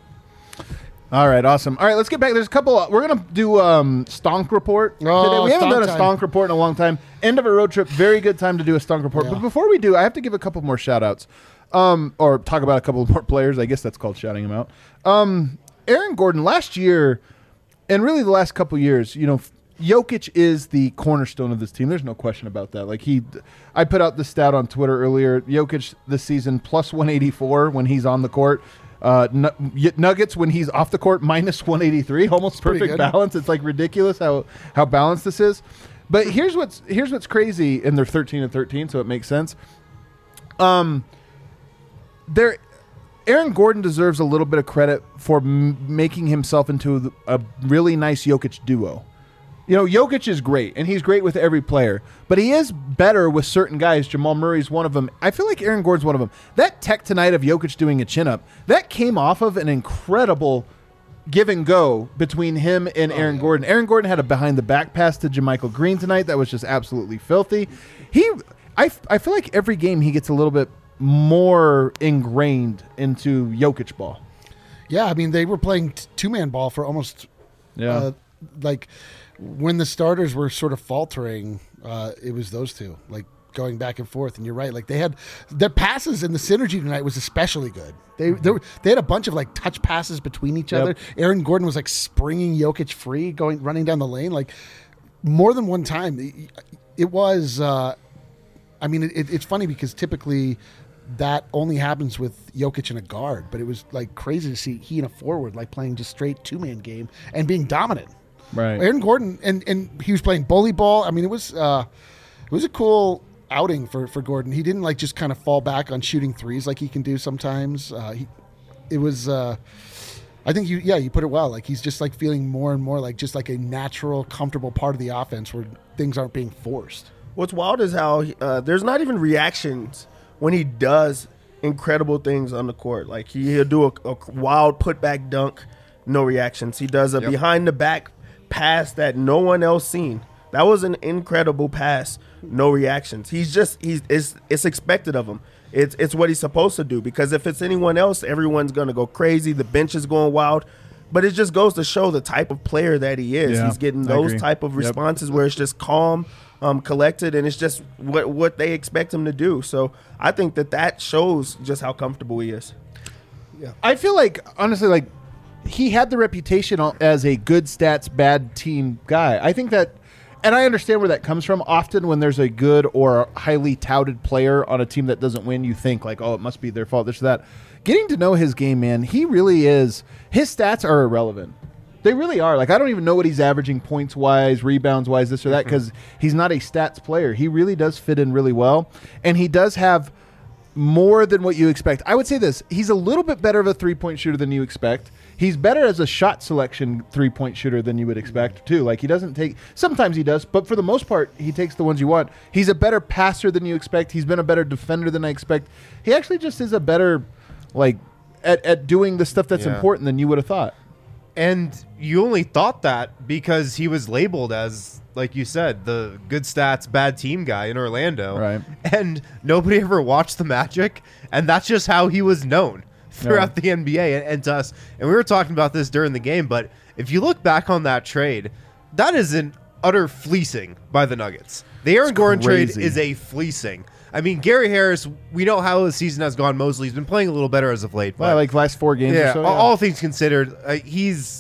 S2: All right, awesome. All right, let's get back. There's a couple. We're gonna do um, stonk report
S3: Oh,
S2: today. We haven't
S3: stonk
S2: done a
S3: time.
S2: stonk report in a long time. End of a road trip. Very good time to do a stonk report.
S3: Yeah.
S2: But before we do, I have to give a couple more shout outs. Um, or talk about a couple more players. I guess that's called shouting them out. Um, Aaron Gordon last year, and really the last couple years, you know, Jokic is the cornerstone of this team. There's no question about that. Like he, I put out the stat on Twitter earlier. Jokic this season plus one eighty-four when he's on the court. Uh, Nu- Nuggets when he's off the court minus one eighty-three, almost
S3: pretty
S2: perfect
S3: good.
S2: balance. It's like ridiculous how how balanced this is. But here's what's here's what's crazy, and they're thirteen and thirteen, so it makes sense. Um, there, Aaron Gordon deserves a little bit of credit for m- making himself into a really nice Jokic duo. You know, Jokic is great, and he's great with every player, but he is better with certain guys. Jamal Murray's one of them. I feel like Aaron Gordon's one of them. That tech tonight of Jokic doing a chin-up, that came off of an incredible give and go between him and Aaron Gordon. Aaron Gordon had a behind-the-back pass to JaMychal Green tonight that was just absolutely filthy. He, I, I feel like every game he gets a little bit more ingrained into Jokic ball.
S3: Yeah, I mean, they were playing t- two-man ball for almost,
S2: Yeah.
S3: uh, like, when the starters were sort of faltering, uh, it was those two, like, going back and forth. And you're right, like, they had their passes and the synergy tonight was especially good. They they, were, they had a bunch of, like, touch passes between each
S2: Yep.
S3: other. Aaron Gordon was, like, springing Jokic free, going running down the lane, like, more than one time. It, it was, uh, I mean, it, it's funny because typically that only happens with Jokic and a guard, but it was like crazy to see he and a forward like playing just straight two man game and being dominant.
S2: Right.
S3: Aaron Gordon and and he was playing bully ball. I mean, it was uh, it was a cool outing for for Gordon. He didn't like just kind of fall back on shooting threes like he can do sometimes. Uh, he it was. Uh, I think you yeah you put it well. Like he's just like feeling more and more like just like a natural, comfortable part of the offense where things aren't being forced.
S5: What's wild is how uh, there's not even reactions when he does incredible things on the court. Like he, he'll do a, a wild putback dunk, no reactions. He does a
S4: Yep.
S5: behind the back pass that no one else seen. That was an incredible pass, no reactions. He's just he's it's it's expected of him. It's it's what he's supposed to do because if it's anyone else, everyone's gonna go crazy. The bench is going wild. But it just goes to show the type of player that he is.
S2: Yeah,
S5: He's getting
S2: I
S5: those
S2: agree.
S5: type of
S2: Yep.
S5: responses where it's just calm, um, collected, and it's just what what they expect him to do. So I think that that shows just how comfortable he is.
S2: I feel like honestly, like he had the reputation o- as a good stats, bad team guy. I think that, and I understand where that comes from. Often, when there's a good or highly touted player on a team that doesn't win, you think like, oh, it must be their fault. This or that. Getting to know his game, man, he really is. His stats are irrelevant. They really are. Like I don't even know what he's averaging points wise, rebounds wise, this or that, because he's not a stats player. He really does fit in really well, and he does have more than what you expect. I would say this. He's a little bit better of a three-point shooter than you expect. He's better as a shot selection three-point shooter than you would expect, too. Like, he doesn't take... Sometimes he does, but for the most part, he takes the ones you want. He's a better passer than you expect. He's been a better defender than I expect. He actually just is a better, like, at, at doing the stuff that's
S4: Yeah.
S2: important than you would have thought.
S4: And you only thought that because he was labeled as, like you said, the good stats, bad team guy in Orlando.
S2: Right.
S4: And nobody ever watched the Magic, and that's just how he was known throughout
S2: Yeah.
S4: the N B A and, and to us. And we were talking about this during the game, but if you look back on that trade, that is an utter fleecing by the Nuggets. The Aaron
S2: It's
S4: Gordon
S2: crazy.
S4: trade is a fleecing. I mean, Gary Harris, we know how his season has gone mostly. He's been playing a little better as of late.
S2: Well,
S4: but
S2: like last four games
S4: yeah,
S2: or so.
S4: all, all things considered, uh, he's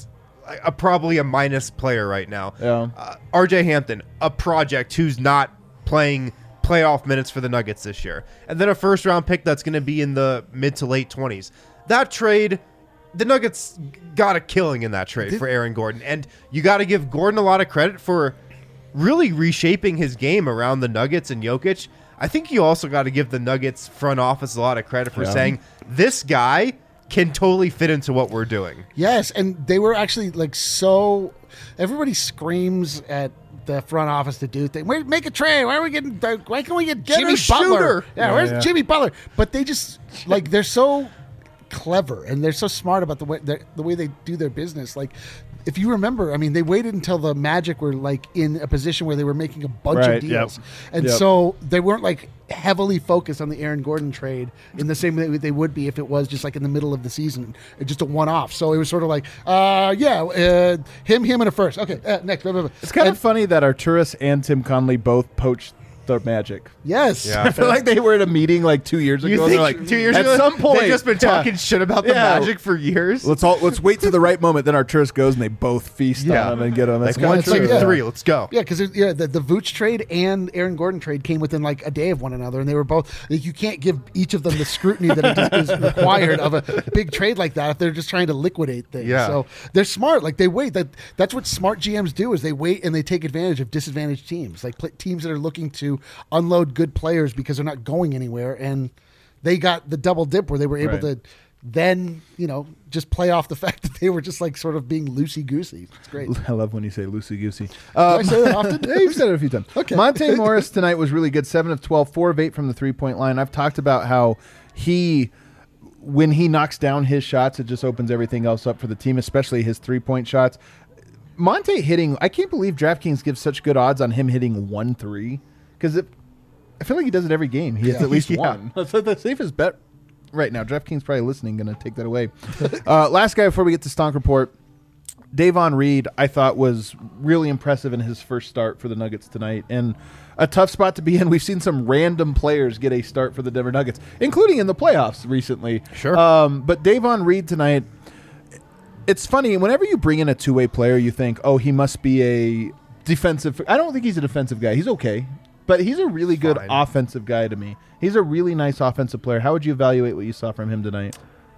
S4: a, probably a minus player right now.
S2: Yeah.
S4: Uh, R J Hampton, a project who's not playing playoff minutes for the Nuggets this year. And then a first round pick that's going to be in the mid to late twenties. That trade, the Nuggets got a killing in that trade for Aaron Gordon. And you got to give Gordon a lot of credit for really reshaping his game around the Nuggets and Jokic. I think you also got to give the Nuggets front office a lot of credit for
S2: Yeah.
S4: saying this guy can totally fit into what we're doing.
S3: Yes, and they were actually like so. Everybody screams at the front office to do things. Wait, make a trade. Why are we getting? Why can't we get Jimmy
S4: Dennis
S3: Butler?
S4: Schroeder.
S3: Yeah,
S2: Yeah,
S3: where's
S2: yeah.
S3: Jimmy Butler? But they just like they're so clever and they're so smart about the way the way they do their business. Like, if you remember, I mean, they waited until the Magic were like in a position where they were making a bunch
S2: Right,
S3: of deals,
S2: yep.
S3: and
S2: Yep.
S3: so they weren't like heavily focused on the Aaron Gordon trade in the same way they would be if it was just like in the middle of the season, just a one-off. So it was sort of like, uh, yeah, uh, him, him, and a first. Okay, uh, next. Blah, blah, blah.
S2: It's kind
S3: And-
S2: of funny that Arturis and Tim Conley both poached the Magic.
S3: Yes.
S4: Yeah.
S2: I feel like they were at a meeting like two years
S4: You
S2: ago. and
S4: think
S2: they're like,
S4: two years
S2: at
S4: ago,
S2: some point,
S4: they've just been
S2: yeah.
S4: talking shit about the
S2: Yeah.
S4: Magic for years?
S2: Let's all let's wait to the right moment. Then Arturis goes and they both feast
S4: Yeah.
S2: on him and get him. That's
S4: Like
S2: kind
S4: one,
S2: of
S3: it's
S4: two,
S3: like, yeah.
S4: three, let's go.
S3: Yeah, because yeah, the, the Vooch trade and Aaron Gordon trade came within like a day of one another, and they were both. Like, you can't give each of them the scrutiny that it just is required of a big trade like that if they're just trying to liquidate things.
S4: Yeah.
S3: So they're smart. Like they wait. That that's what smart G Ms do is they wait and they take advantage of disadvantaged teams, like pl- teams that are looking to unload good players because they're not going anywhere, and they got the double dip where they were able
S2: Right.
S3: to. Then, you know, just play off the fact that they were just like sort of being loosey goosey. It's great.
S2: I love when you say loosey goosey.
S3: Do I say that often?
S2: Yeah, you've said it a few times.
S3: Okay.
S2: Monte Morris tonight was really good. seven of twelve, four of eight from the three-point line. I've talked about how he, when he knocks down his shots, it just opens everything else up for the team, especially his three-point shots. Monte hitting, I can't believe DraftKings gives such good odds on him hitting one three because I feel like he does it every game. He hits
S3: Yeah.
S2: at least
S4: Yeah.
S2: one. That's like the safest bet right now. DraftKings probably listening, going to take that away. uh, last guy before we get to Stonk Report. Davon Reed, I thought, was really impressive in his first start for the Nuggets tonight, and a tough spot to be in. We've seen some random players get a start for the Denver Nuggets, including in the playoffs recently.
S4: Sure.
S2: Um, but Davon Reed tonight, it's funny. Whenever you bring in a two-way player, you think, oh, he must be a defensive. I don't think he's a defensive guy. He's okay, but he's a really good
S4: Fine.
S2: offensive guy to me. He's a really nice offensive player. How would you evaluate what you saw from him tonight?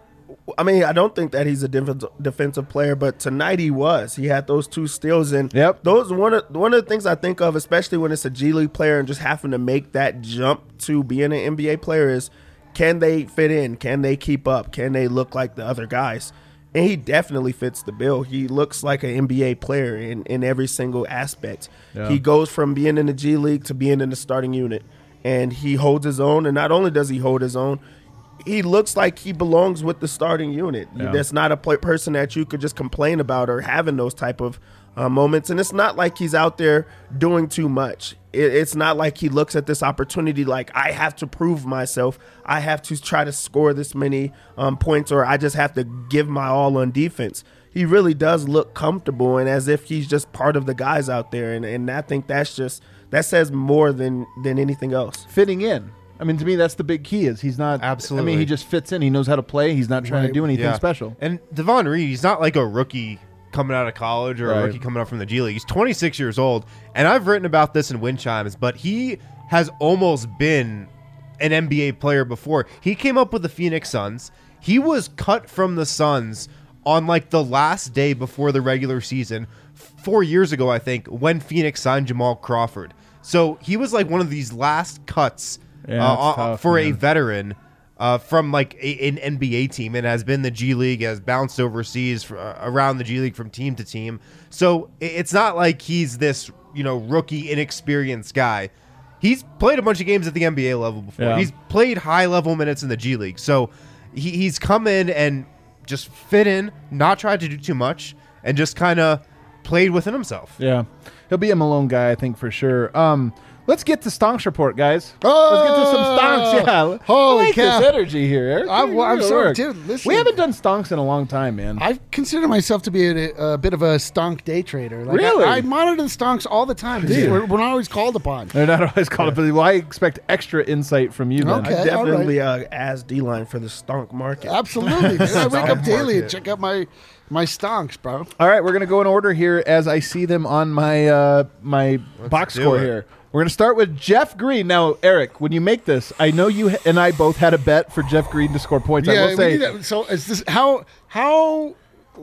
S5: I mean, I don't think that he's a def- defensive player, but tonight he was. He had those two steals, and
S2: Yep.
S5: those one of one of the things I think of, especially when it's a G League player and just having to make that jump to being an N B A player, is can they fit in? Can they keep up? Can they look like the other guys? And he definitely fits the bill. He looks like an N B A player in, in every single aspect.
S2: Yeah.
S5: He goes from being in the G League to being in the starting unit, and he holds his own. And not only does he hold his own, he looks like he belongs with the starting unit.
S2: Yeah.
S5: That's not a pl- person that you could just complain about or having those type of uh, moments. And it's not like he's out there doing too much. It, it's not like he looks at this opportunity like, I have to prove myself. I have to try to score this many um, points, or I just have to give my all on defense. He really does look comfortable and as if he's just part of the guys out there. And, and I think that's just, that says more than, than anything else.
S2: Fitting in. I mean, to me, that's the big key. Is he's not I
S4: Absolutely.
S2: mean, he just fits in. He knows how to play. He's not trying to
S3: Right.
S2: do anything
S4: Yeah.
S2: special.
S4: And Devon Reed, he's not like a rookie coming out of college or
S2: Right.
S4: a rookie coming up from the G League. He's twenty-six years old, and I've written about this in Wind Chimes, but he has almost been an N B A player before. He came up with the Phoenix Suns. He was cut from the Suns on like the last day before the regular season, four years ago, I think, when Phoenix signed Jamal Crawford. So he was like one of these last cuts
S2: Yeah,
S4: uh,
S2: that's
S4: uh,
S2: tough,
S4: for a
S2: man.
S4: veteran uh, from like a, an N B A team, and has been the G League, has bounced overseas for, uh, around the G League from team to team. So i- it's not like he's this, you know, rookie, inexperienced guy. He's played a bunch of games at the N B A level before.
S2: Yeah.
S4: He's played high level minutes in the G League. So he, he's come in and just fit in, not tried to do too much, and just kind of played within himself.
S2: Yeah, he'll be a Malone guy, I think, for sure. Um, Let's get to Stonks report, guys.
S3: Oh,
S2: Let's get to some Stonks. Yeah.
S3: holy
S2: I like
S3: cow.
S2: this energy here, Eric.
S3: I'm-
S2: You're
S3: I'm
S2: good
S3: sorry,
S2: work.
S3: dude, listen.
S2: We haven't done Stonks in a long time, man.
S3: I consider myself to be a, a bit of a stonk day trader. Like,
S2: Really?
S3: I, I monitor the stonks all the time.
S2: Dude.
S3: We're, we're not always called upon.
S2: They're not always called up. Well, I expect extra insight from you, then.
S3: Okay.
S5: I definitely uh, as D-line for the stonk market.
S3: Absolutely. dude. I wake up
S4: Stock
S3: daily and
S4: market.
S3: check out my my stonks, bro.
S2: All right, we're gonna go in order here as I see them on my uh, my box
S4: do
S2: score
S4: it.
S2: here. We're gonna start with Jeff Green. Now, Eric, when you make this, I know you ha- and I both had a bet for Jeff Green to score points. I
S3: Yeah,
S2: will
S3: we
S2: say,
S3: need to- so is this how how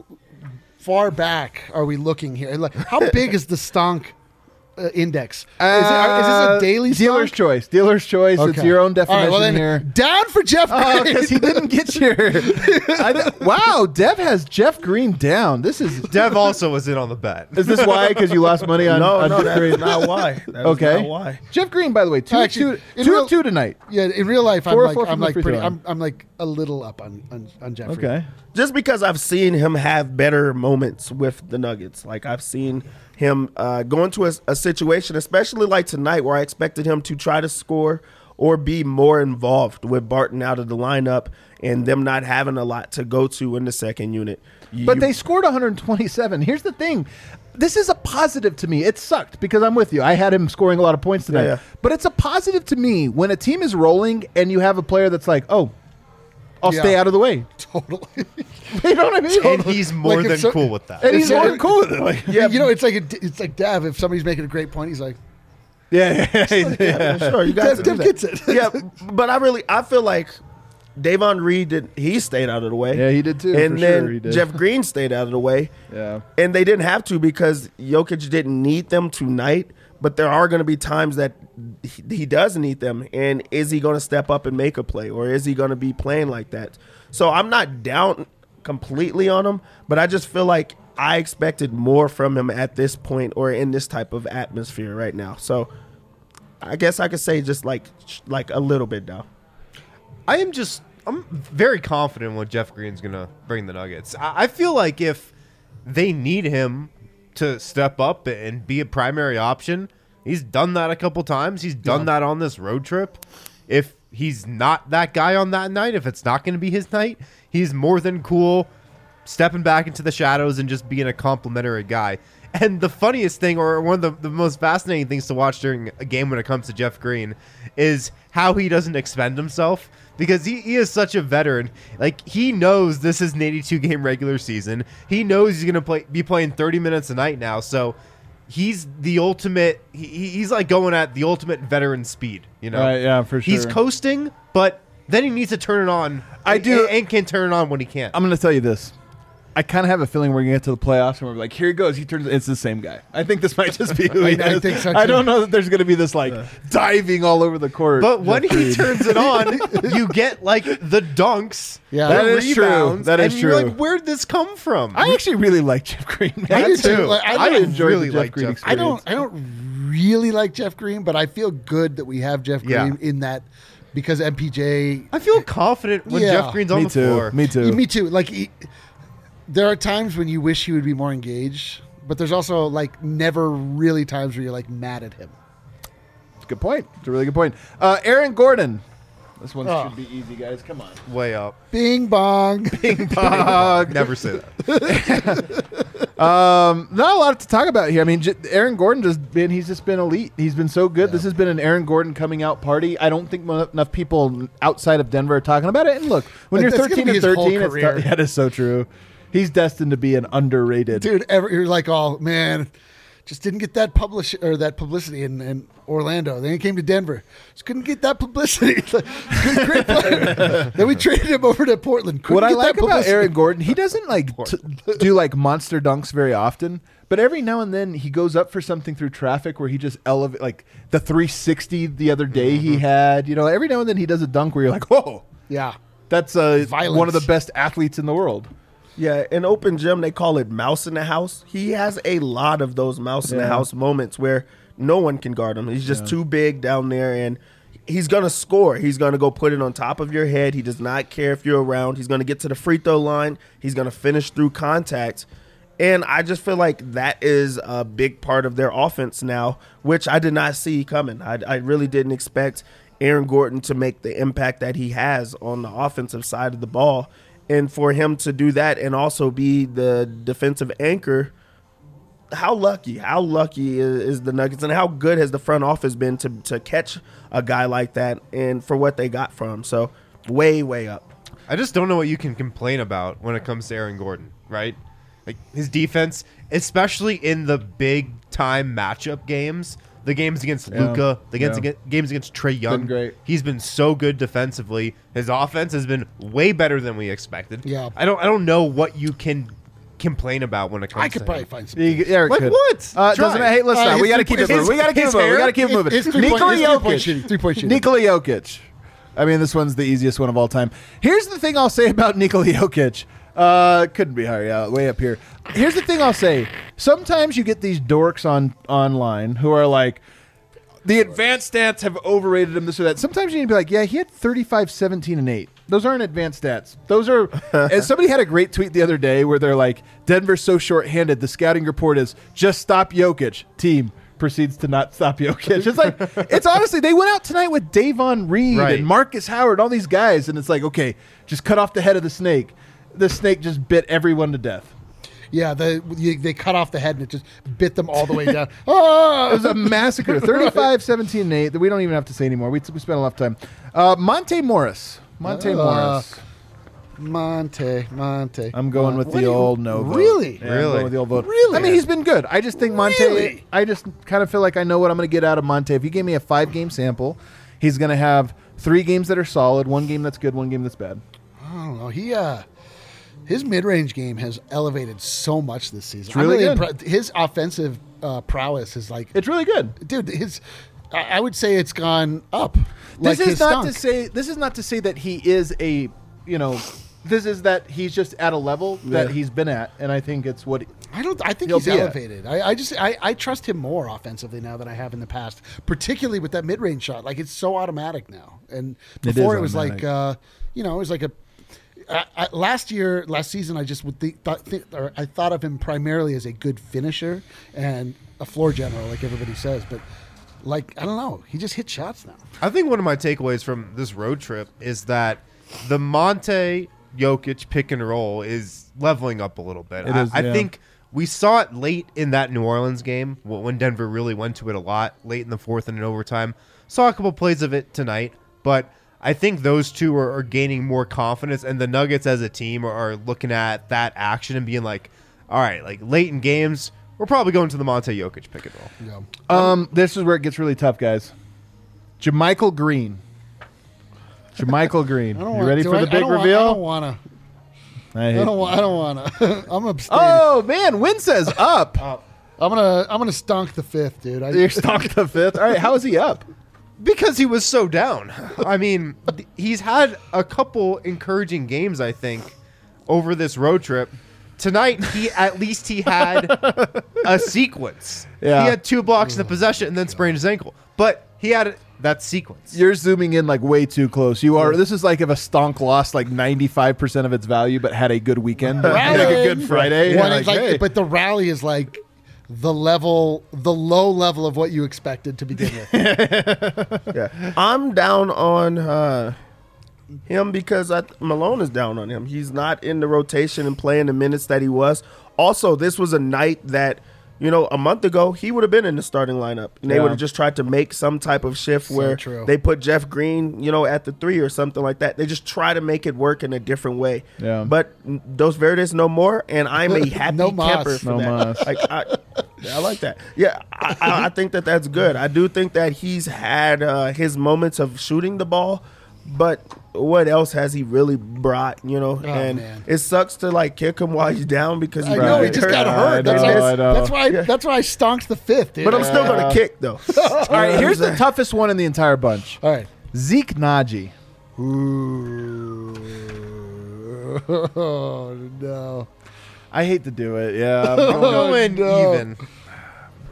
S3: far back are we looking here? Like, how big is the stonk uh, index? Is, it, is this a daily
S2: Uh, dealer's
S3: stonk?
S2: choice? Dealer's choice. It's
S3: Okay.
S2: your own
S3: All
S2: definition
S3: right, well then,
S2: here.
S3: down for Jeff
S2: Oh,
S3: Green.
S2: because he didn't get your. I th- wow, Dev has Jeff Green down. This is.
S4: Dev also was in on the bet.
S2: Is this why? Because you lost money on,
S5: no,
S2: on
S5: no,
S2: Jeff
S5: that's
S2: Green?
S5: not why. That is
S2: Okay.
S5: not why.
S2: Jeff Green, by the way, two,
S3: Actually,
S2: two,
S3: in
S2: two
S3: real-
S2: of two tonight.
S3: Yeah, in real life, I'm
S2: Four or
S3: like
S2: four
S3: I'm
S2: from the
S3: like
S2: free
S3: pretty.
S2: throw
S3: I'm, I'm like a little up on on, on Jeffrey.
S2: Okay.
S5: Just because I've seen him have better moments with the Nuggets. Like I've seen him uh, go into a, a situation, especially like tonight, where I expected him to try to score or be more involved with Barton out of the lineup and them not having a lot to go to in the second unit. You-
S2: But they scored one hundred twenty-seven. Here's the thing. This is a positive to me. It sucked because I'm with you. I had him scoring a lot of points tonight.
S5: Yeah, yeah.
S2: But it's a positive to me when a team is rolling and you have a player that's like, oh, I'll
S3: Yeah.
S2: stay out of the way.
S3: Totally.
S2: You know what I mean?
S4: And he's more
S3: Like if
S4: than
S3: so-
S4: cool with that.
S2: And he's
S3: It's
S2: more
S3: so-
S2: than cool with it. Like,
S3: yeah, you know, it's like a, it's like Dav. If somebody's making a great point, he's like,
S2: yeah, yeah, yeah.
S5: Yeah, sure, you got
S3: Dev,
S5: to do
S3: Dev
S5: that.
S3: gets it.
S5: Yeah, but I really I feel like Davon Reed did he stayed out of the way.
S2: Yeah, he did too,
S5: And
S2: for
S5: then
S2: sure, he did.
S5: Jeff Green stayed out of the way.
S2: Yeah.
S5: And they didn't have to because Jokic didn't need them tonight, but there are going to be times that he, he does need them. And is he going to step up and make a play, or is he going to be playing like that? So I'm not down completely on him, but I just feel like I expected more from him at this point or in this type of atmosphere right now. So I guess I could say just like like a little bit down.
S4: I am just I'm very confident what Jeff Green's gonna bring the Nuggets. I, I feel like if they need him to step up and be a primary option, he's done that a couple times. He's done that on this road trip. If he's not that guy on that night, if it's not going to be his night, he's more than cool stepping back into the shadows and just being a complimentary guy. And the funniest thing, or one of the, the most fascinating things to watch during a game when it comes to Jeff Green, is how he doesn't expend himself. Because he, he is such a veteran. Like, he knows this is an eighty-two game regular season. He knows he's going to play be playing thirty minutes a night now. So he's the ultimate, he, he's like going at the ultimate veteran speed, you know?
S2: Right, yeah, for
S4: He's
S2: sure.
S4: coasting, but then he needs to turn it on.
S2: I
S4: and-
S2: do-
S4: And can turn it on when he can.
S2: I'm going to tell you this. I kind of have a feeling we're going to get to the playoffs and we're like, here he goes. He turns. It's the same guy. I think this might just be who he
S3: I- I
S2: is.
S3: think so,
S2: I
S3: too.
S2: don't know that there's going to be this like diving all over the court.
S4: But when
S2: Jeff
S4: he
S2: Green.
S4: turns it on, you get like the dunks,
S3: Yeah.
S4: the
S2: That is true.
S4: rebounds,
S2: That is
S4: and you're
S2: true.
S4: like, where'd this come from?
S2: I actually really like Jeff Green. Man.
S3: I do
S2: That's-
S3: too. Like, I
S2: I
S3: really
S2: enjoyed
S4: really
S2: the Jeff
S4: like
S2: Green
S4: Jeff-
S3: I don't.
S2: experience.
S3: I don't really like Jeff Green, but I feel good that we have Jeff
S4: Yeah.
S3: Green in that because M P J.
S4: I feel confident when
S3: Yeah.
S4: Jeff Green's on
S2: Me
S4: the
S2: too.
S4: floor.
S2: Me too.
S3: Me too. Like, he, there are times when you wish he would be more engaged, but there's also like never really times where you're like mad at him.
S2: It's a good point. It's a really good point. Uh, Aaron Gordon. This one
S3: Oh.
S2: should be easy, guys. Come on.
S4: Way up.
S3: Bing bong.
S4: Never say that.
S2: Um, not a lot to talk about here. I mean, j- Aaron Gordon just been, he's just been elite. He's been so good. This has been an Aaron Gordon coming out party. I don't think mo- enough people outside of Denver are talking about it. And look, when
S3: Like,
S2: you're
S3: that's gonna
S2: thirteen
S3: be
S2: and
S3: his whole
S2: thirteen, it's
S3: career.
S2: t- that is so true. He's destined to be an underrated.
S3: Dude, ever, you're like, oh man, just didn't get that publish or that publicity in, in Orlando. Then he came to Denver, just couldn't get that publicity. Good, great player. Then we traded him over to Portland. Couldn't
S2: What I
S3: get
S2: like
S3: that
S2: about
S3: publicity.
S2: Aaron Gordon, he doesn't like t- do like monster dunks very often, but every now and then he goes up for something through traffic where he just elevate, like the three sixty the other day he had. You know, every now and then he does a dunk where you're like, whoa,
S3: yeah,
S2: that's uh,
S3: Violence.
S2: one of the best athletes in the world.
S5: Yeah, in open gym they call it mouse in the house. He has a lot of those mouse in the
S2: Yeah.
S5: house moments where no one can guard him. He's just too big down there, and he's gonna score. He's gonna go put it on top of your head. He does not care if you're around. He's gonna get to the free throw line. He's gonna finish through contact, And I just feel like that is a big part of their offense now, which I did not see coming. I, I really didn't expect Aaron Gordon to make the impact that he has on the offensive side of the ball. And for him to do that and also be the defensive anchor, how lucky, how lucky is, is the Nuggets, and how good has the front office been to, to catch a guy like that and for what they got from him. So way, way up.
S4: I just don't know what you can complain about when it comes to Aaron Gordon, right? Like his defense, especially in the big time matchup games, the games against
S2: Yeah.
S4: Luka, the games,
S2: Yeah.
S4: against, games against Trae Young.
S2: Been great.
S4: He's been so good defensively. His offense has been way better than we expected.
S3: Yeah.
S4: I don't I don't know what you can complain about when it comes
S3: I
S4: to
S3: could probably
S4: him.
S3: find some.
S2: You- Eric
S4: Like
S2: could.
S4: what?
S2: Uh,
S4: Try.
S2: doesn't hey, listen,
S3: Uh,
S2: we
S3: his
S2: got to keep it
S3: three-
S2: moving. We got to keep it
S3: his
S2: moving. We
S3: hair-
S2: got to keep it moving.
S3: his three-point-
S2: Nikola
S3: his three-point
S2: Jokic.
S3: shooting, three-point shooting.
S2: Nikola Jokic. I mean, this one's the easiest one of all time. Here's the thing I'll say about Nikola Jokic. Uh, couldn't be higher. Yeah, way up here. Here's the thing I'll say. Sometimes you get these dorks on online who are like, the advanced stats have overrated him, this or that. Sometimes you need to be like, yeah, he had thirty-five, seventeen, and eight. Those aren't advanced stats. Those are, and somebody had a great tweet the other day where they're like, Denver's so short-handed. The scouting report is, just stop Jokic. Team proceeds to not stop Jokic. It's like, it's honestly, they went out tonight with Davon Reed
S4: Right.
S2: and Marcus Howard, all these guys, and it's like, okay, just cut off the head of the snake. The snake just bit everyone to death.
S3: Yeah, the, you, they cut off the head and it just bit them all the way down. Oh!
S2: It was a massacre. thirty-five, seventeen, and eight. That we don't even have to say anymore. We, we spent a lot of time. Uh, Monte Morris. Monte
S3: Uh,
S2: Morris.
S3: Monte, Monte.
S2: I'm going with
S3: What
S2: the
S3: do you-
S2: old no vote.
S3: Really?
S2: Yeah, I'm
S4: Really?
S2: going with the old vote.
S3: Really?
S2: I mean, he's been good. I just think Monte.
S3: Really?
S2: I just kind of feel like I know what I'm going to get out of Monte. If you gave me a five game sample, he's going to have three games that are solid, one game that's good, one game that's bad.
S3: I don't know. He uh, his mid-range game has elevated so much this season.
S2: It's really
S3: I'm
S2: good.
S3: impre- his offensive uh, prowess is like,
S2: It's really good.
S3: dude. His, I, I would say it's gone up.
S2: This
S3: like
S2: is
S3: his
S2: not
S3: stunk.
S2: to say. This is not to say that he is a. You know, this is that he's just at a level that
S5: Yeah.
S2: he's been at, and I think it's what.
S3: I don't. I think
S2: He'll
S3: he's
S2: be at.
S3: elevated. I, I just. I, I trust him more offensively now than I have in the past, particularly with that mid-range shot. Like it's so automatic now, and
S2: It
S3: before
S2: is
S3: it, was
S2: automatic.
S3: like, uh, you know, it was like a. I, I, last year, last season, I just would think, thought, think, or I thought of him primarily as a good finisher and a floor general, like everybody says. But like, I don't know, he just hits shots now.
S4: I think one of my takeaways from this road trip is that the Monte Jokic pick and roll is leveling up a little bit.
S2: It
S4: I,
S2: is,
S4: I
S2: yeah.
S4: think we saw it late in that New Orleans game wh- when Denver really went to it a lot, late in the fourth and in overtime. Saw a couple plays of it tonight, but I think those two are, are gaining more confidence, and the Nuggets as a team are, are looking at that action and being like, all right, like late in games, we're probably going to the Monte Jokic pick and roll.
S3: You know?
S2: Um, this is where it gets really tough, guys. Jermichael Green. Jermichael Green.
S3: I don't
S2: You
S3: want,
S2: ready
S3: do
S2: for
S3: I,
S2: the
S3: I
S2: big
S3: don't want- I
S2: reveal?
S3: don't want to.
S2: I
S3: I
S2: hate-
S3: don't. wa- I don't want to. I'm abstaining.
S2: Oh man, Win says up.
S3: I'm gonna. I'm gonna stunk the fifth, dude. I,
S2: You're stuck the fifth. All right, how is he up?
S4: Because he was so down. I mean, th- he's had a couple encouraging games, I think, over this road trip. Tonight, he at least he had a sequence.
S2: Yeah.
S4: He had two blocks in the possession and then sprained his ankle. But he had that sequence.
S2: You're zooming in like way too close. You are. This is like if a stonk lost like ninety-five percent of its value, but had a good weekend, like a
S3: Rallying.
S2: good Friday.
S3: When
S2: You're
S3: it's like,
S2: hey.
S3: but the rally is like the level, the low level of what you expected to begin with.
S5: Yeah, I'm down on uh, him because I, Malone is down on him. He's not in the rotation and playing the minutes that he was. Also, this was a night that, you know, a month ago he would have been in the starting lineup, and they
S2: Yeah.
S5: would have just tried to make some type of shift
S3: So
S5: where
S3: true.
S5: they put Jeff Green, you know, at the three or something like that. They just try to make it work in a different way.
S2: Yeah.
S5: But Dos Verdes no more, and I'm a happy
S3: No mas.
S5: camper for
S2: No
S5: that.
S2: mas.
S5: Like I, I like that. Yeah, I, I, I think that that's good. I do think that he's had uh, his moments of shooting the ball, but what else has he really brought? You know, and
S3: man.
S5: it sucks to like kick him while he's down because he
S3: I know he
S2: Right.
S3: just got
S2: I
S3: hurt. That's,
S2: know,
S3: why,
S2: I know.
S3: that's why. That's why I stonked the fifth, dude.
S5: But I'm still
S2: Yeah.
S5: gonna kick though.
S2: All right, here's the toughest one in the entire bunch.
S3: all right.
S2: Zeke Naji.
S3: Ooh. Oh no.
S2: I hate to do it. Yeah, I'm
S4: I'm
S2: going-
S4: going
S3: no.
S4: even.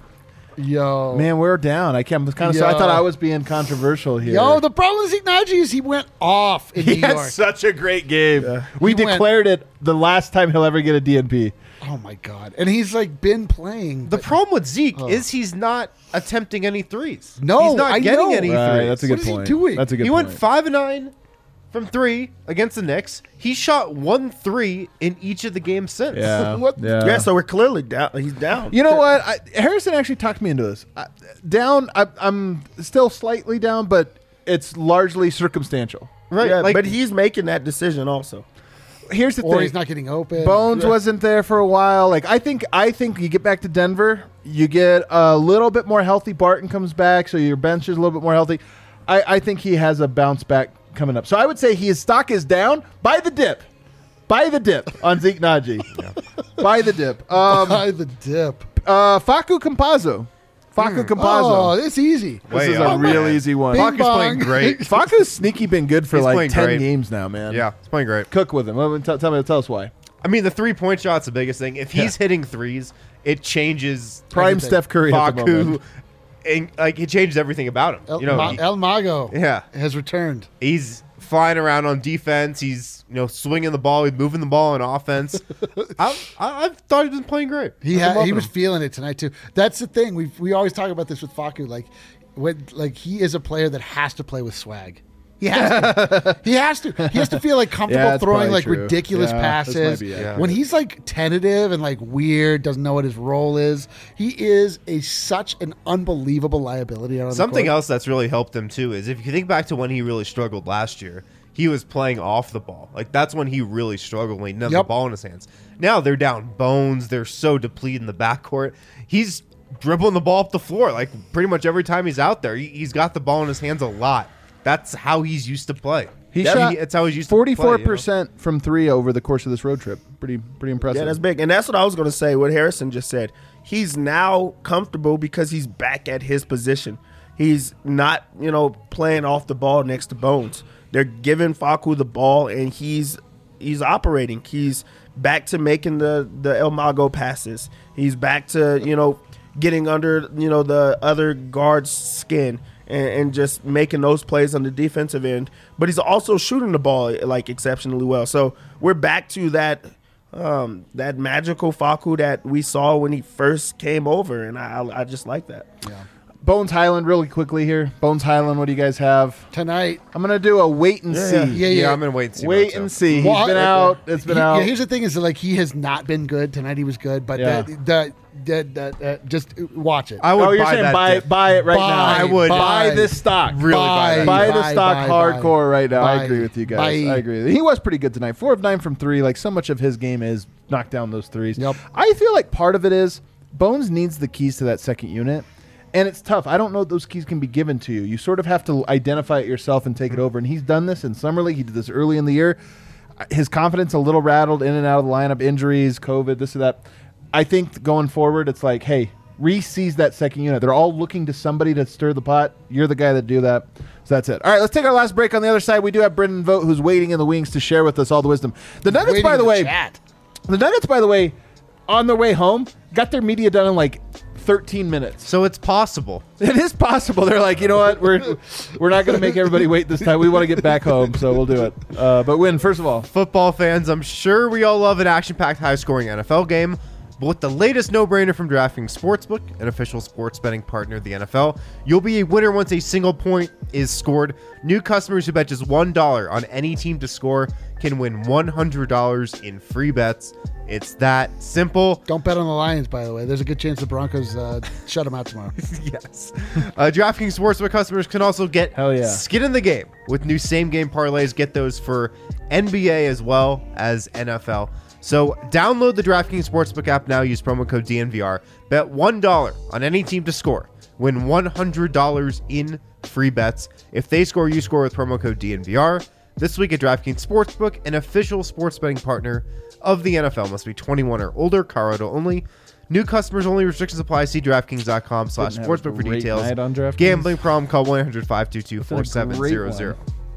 S3: Yo.
S2: Man, we're down. I can't. Kind of. So I
S3: Yo.
S2: thought I was being controversial here.
S3: Yo, the problem with Zeke Naji is he went off in
S2: he
S3: New
S2: had
S3: York.
S2: such a great game. We
S3: He went-
S2: declared it the last time he'll ever get a D N P.
S3: Oh, my God. And he's, like, been playing.
S4: The
S3: but-
S4: problem with Zeke is he's not attempting any threes.
S3: No,
S4: he's not
S3: I
S4: getting
S3: know.
S4: any
S2: Right,
S4: threes.
S2: that's a
S3: What
S2: good
S3: is he
S2: point.
S3: doing?
S2: That's a good
S4: he
S2: point.
S4: went five and nine from three against the Knicks. He shot one three in each of the games since.
S2: Yeah.
S3: What?
S2: Yeah.
S5: Yeah, so we're clearly down. He's down.
S2: You know what? I, Harrison actually talked me into this. I, down. I, I'm still slightly down, but it's largely circumstantial.
S4: Right.
S5: Yeah,
S4: like,
S5: but he's making that decision also.
S2: Here's the
S3: Or
S2: thing.
S3: he's not getting open.
S2: Bones wasn't there for a while. Like I think, I think you get back to Denver, you get a little bit more healthy. Barton comes back, so your bench is a little bit more healthy. I, I think he has a bounce back coming up. So I would say his stock is down. Buy the dip. Buy the dip on Zeke Naji. Buy the dip. Um,
S3: By the dip.
S2: uh, Facu Campazzo. Facu
S3: Oh,
S2: Campazzo.
S3: it's easy.
S2: This
S4: Way
S2: is
S4: up,
S2: a real
S4: man.
S2: easy one.
S3: Bing
S4: Facu's playing
S3: bong.
S4: great.
S2: Facu's sneaky been good for
S4: He's
S2: like
S4: playing
S2: ten
S4: great.
S2: games now, man.
S4: yeah, he's playing great.
S2: Cook with him. Let me tell, tell me, tell us why.
S4: I mean, the three point shot's the biggest thing. If he's hitting threes, it changes
S2: Prime
S3: Everything.
S2: Steph Curry at the
S4: Facu,
S2: moment.
S4: and like it changes everything about him.
S3: El,
S4: you know,
S3: Ma-
S4: he-
S3: El Mago
S4: yeah,
S3: has returned.
S4: he's flying around on defense. He's you know swinging the ball. He's moving the ball on offense. I, I, I thought he'd been playing great.
S3: He
S4: I've been
S3: had, he
S4: loving
S3: was
S4: him.
S3: feeling it tonight too. That's the thing. We we always talk about this with Facu. Like when like he is a player that has to play with swag. He has to. he has to. He has to feel like comfortable
S2: Yeah, that's
S3: throwing
S2: probably
S3: like
S2: true.
S3: ridiculous
S2: Yeah, this might
S3: passes.
S2: be it.
S4: Yeah.
S3: When he's like tentative and like weird, doesn't know what his role is. He is a such an unbelievable liability. Out on
S4: Something
S3: the court.
S4: else that's really helped him too is if you think back to when he really struggled last year, he was playing off the ball. Like that's when he really struggled when he didn't have
S3: Yep.
S4: the ball in his hands. Now they're down bones. They're so depleted in the backcourt. He's dribbling the ball up the floor like pretty much every time he's out there. He, he's got the ball in his hands a lot. That's how he's used to play.
S2: He
S4: That-
S2: shot
S4: That's how he's used to play.
S2: forty-four
S4: you know?
S2: percent from three over the course of this road trip. Pretty pretty impressive.
S5: Yeah, that's big. And that's what I was going to say, what Harrison just said. He's now comfortable because he's back at his position. He's not, you know, playing off the ball next to Bones. They're giving Facu the ball, and he's he's operating. He's back to making the, the El Mago passes. He's back to, you know, getting under, you know, the other guard's skin and, and just making those plays on the defensive end. But he's also shooting the ball, like, exceptionally well. So we're back to that um, that magical Facu that we saw when he first came over, and I, I just like that.
S2: Bones Highland, really quickly here. Bones Highland, what do you guys have?
S3: tonight.
S2: I'm gonna do a wait and see.
S3: Yeah, yeah.
S4: Yeah, I'm gonna wait and see.
S2: Wait
S4: myself.
S2: and see. He's
S3: Well,
S2: been
S3: I-
S2: out. It's been
S3: He-
S2: out.
S3: Yeah, here's the thing: is that, like he has not been good tonight. He was good, but
S2: Yeah.
S3: the, the, the, the, uh, just watch it.
S4: I would
S2: oh, you're
S4: buy
S2: saying
S4: that.
S2: buy
S4: dip.
S2: buy it right
S3: Buy,
S2: now.
S4: I would.
S2: buy,
S3: buy.
S2: this stock.
S4: Really buy that.
S2: Buy the
S3: buy,
S2: stock
S3: buy,
S2: hardcore right now. I
S3: buy,
S2: agree with you guys.
S3: buy.
S2: I agree. With you. He was pretty good tonight. Four of nine from three. Like so much of his game is knock down those threes.
S3: Yep.
S2: I feel like part of it is Bones needs the keys to that second unit. And it's tough. I don't know if those keys can be given to you. You sort of have to identify it yourself and take it over. And he's done this in Summer League. He did this early in the year. His confidence a little rattled in and out of the lineup, injuries, COVID, this or that. I think going forward, it's like, hey, Reese sees that second unit. They're all looking to somebody to stir the pot. You're the guy that do that. So that's it. All right, let's take our last break. On the other side, we do have Brendan Vogt, who's waiting in the wings to share with us all the wisdom. The Nuggets,
S3: Waiting
S2: by
S3: in
S2: the way,
S3: chat.
S2: the Nuggets, by the way, on their way home, got their media done in like thirteen minutes.
S4: So it's possible.
S2: It is possible. They're like, you know what? We're we're not going to make everybody wait this time. We want to get back home, so we'll do it. Uh, but Win, first of all,
S4: Football fans, I'm sure we all love an action-packed, high-scoring N F L game. But with the latest no-brainer from DraftKings Sportsbook, an official sports betting partner of the N F L, you'll be a winner once a single point is scored. New customers who bet just one dollar on any team to score can win one hundred dollars in free bets. It's that simple.
S3: Don't bet on the Lions, by the way. There's a good chance the Broncos uh, shut them out tomorrow.
S4: Yes. Uh, DraftKings Sportsbook customers can also get
S2: Hell yeah.
S4: skin in the game with new same-game parlays. Get those for N B A as well as N F L. So download the DraftKings Sportsbook app now. Use promo code D N V R. Bet one dollar on any team to score. Win one hundred dollars in free bets. If they score, you score with promo code D N V R. This week at DraftKings Sportsbook, an official sports betting partner of the N F L. Must be twenty-one or older. Colorado only. New customers only. Restrictions apply. See DraftKings.com slash
S2: Didn't have a
S4: sportsbook for
S2: great
S4: details.
S2: night on DraftKings.
S4: Gambling problem. Call one eight hundred five two two
S2: That's
S4: four
S2: a
S4: seven
S2: great
S4: zero
S2: one.
S4: zero.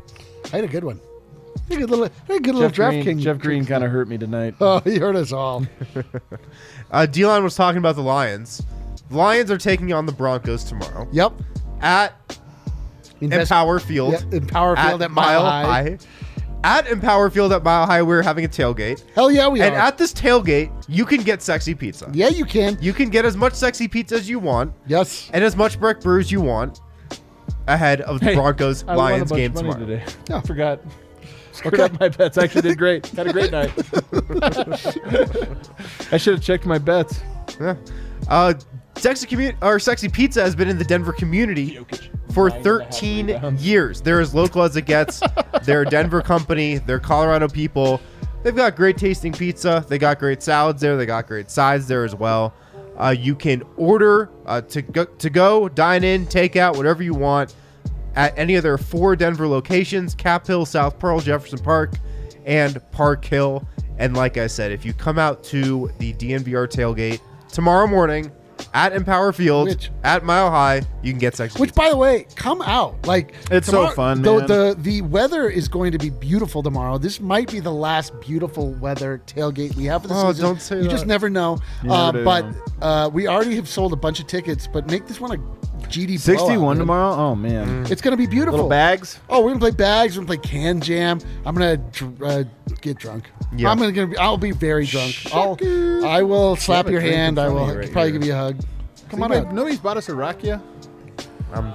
S3: I had a good one. I had a good little, I had a good little
S2: Jeff Green,
S3: DraftKings.
S2: Jeff Green kind of hurt me tonight.
S3: Oh, he hurt us all.
S4: Uh, D-Line was talking about the Lions. The Lions are taking on the Broncos tomorrow
S3: Yep.
S4: at
S3: Invest-
S4: Empower Field.
S3: Yep, Empower Field at Mile High.
S4: At Empower Field at Mile High, we're having a tailgate.
S3: Hell yeah, we
S4: And
S3: are.
S4: at this tailgate, you can get sexy pizza.
S3: yeah, you can.
S4: You can get as much sexy pizza as you want
S3: Yes.
S4: and as much Breck Brew as you want ahead of the
S2: Hey,
S4: Broncos
S2: I won a
S4: Lions
S2: bunch
S4: game
S2: of money
S4: tomorrow.
S2: today.
S3: Oh.
S2: I forgot. Screwed
S3: Okay.
S2: up my bets. I actually did great. Had a great night. I should have checked my bets.
S4: Yeah. Uh, sexy commu- or sexy pizza has been in the Denver community for thirteen years. They're as local as it gets. They're a Denver company. They're Colorado people. They've got great tasting pizza. They got great salads there. They got great sides there as well. Uh, you can order uh, to go, to go, dine in, take out, whatever you want at any of their four Denver locations: Cap Hill, South Pearl, Jefferson Park, and Park Hill. And like I said, if you come out to the D N V R tailgate tomorrow morning at Empower Field,
S3: Which-
S4: at Mile High, you can get sexy
S3: Which,
S4: pizza.
S3: by the way, come out. Like
S2: It's so fun,
S3: The,
S2: man.
S3: the the weather is going to be beautiful tomorrow. This might be the last beautiful weather tailgate we have for the
S4: Oh,
S3: season.
S4: don't say
S3: You
S4: that.
S3: just never know.
S2: You
S3: uh,
S2: never do,
S3: but
S2: no.
S3: uh, we already have sold a bunch of tickets. But make this one a G D blowout,
S2: sixty-one
S3: man.
S2: tomorrow? Oh, man.
S3: It's going to be beautiful.
S2: Little bags?
S3: Oh, we're gonna play bags. We're gonna play can jam. I'm gonna dr- uh, get drunk.
S4: Yeah.
S3: I'm gonna, gonna be. I'll be very drunk. I'll. I will slap
S2: a
S3: your
S2: drink in
S3: hand. I
S2: front of
S3: will
S2: you right
S3: probably
S2: here.
S3: give you a hug. Come on
S2: Anybody-
S3: out.
S2: Nobody's bought us a rakia?
S4: Um,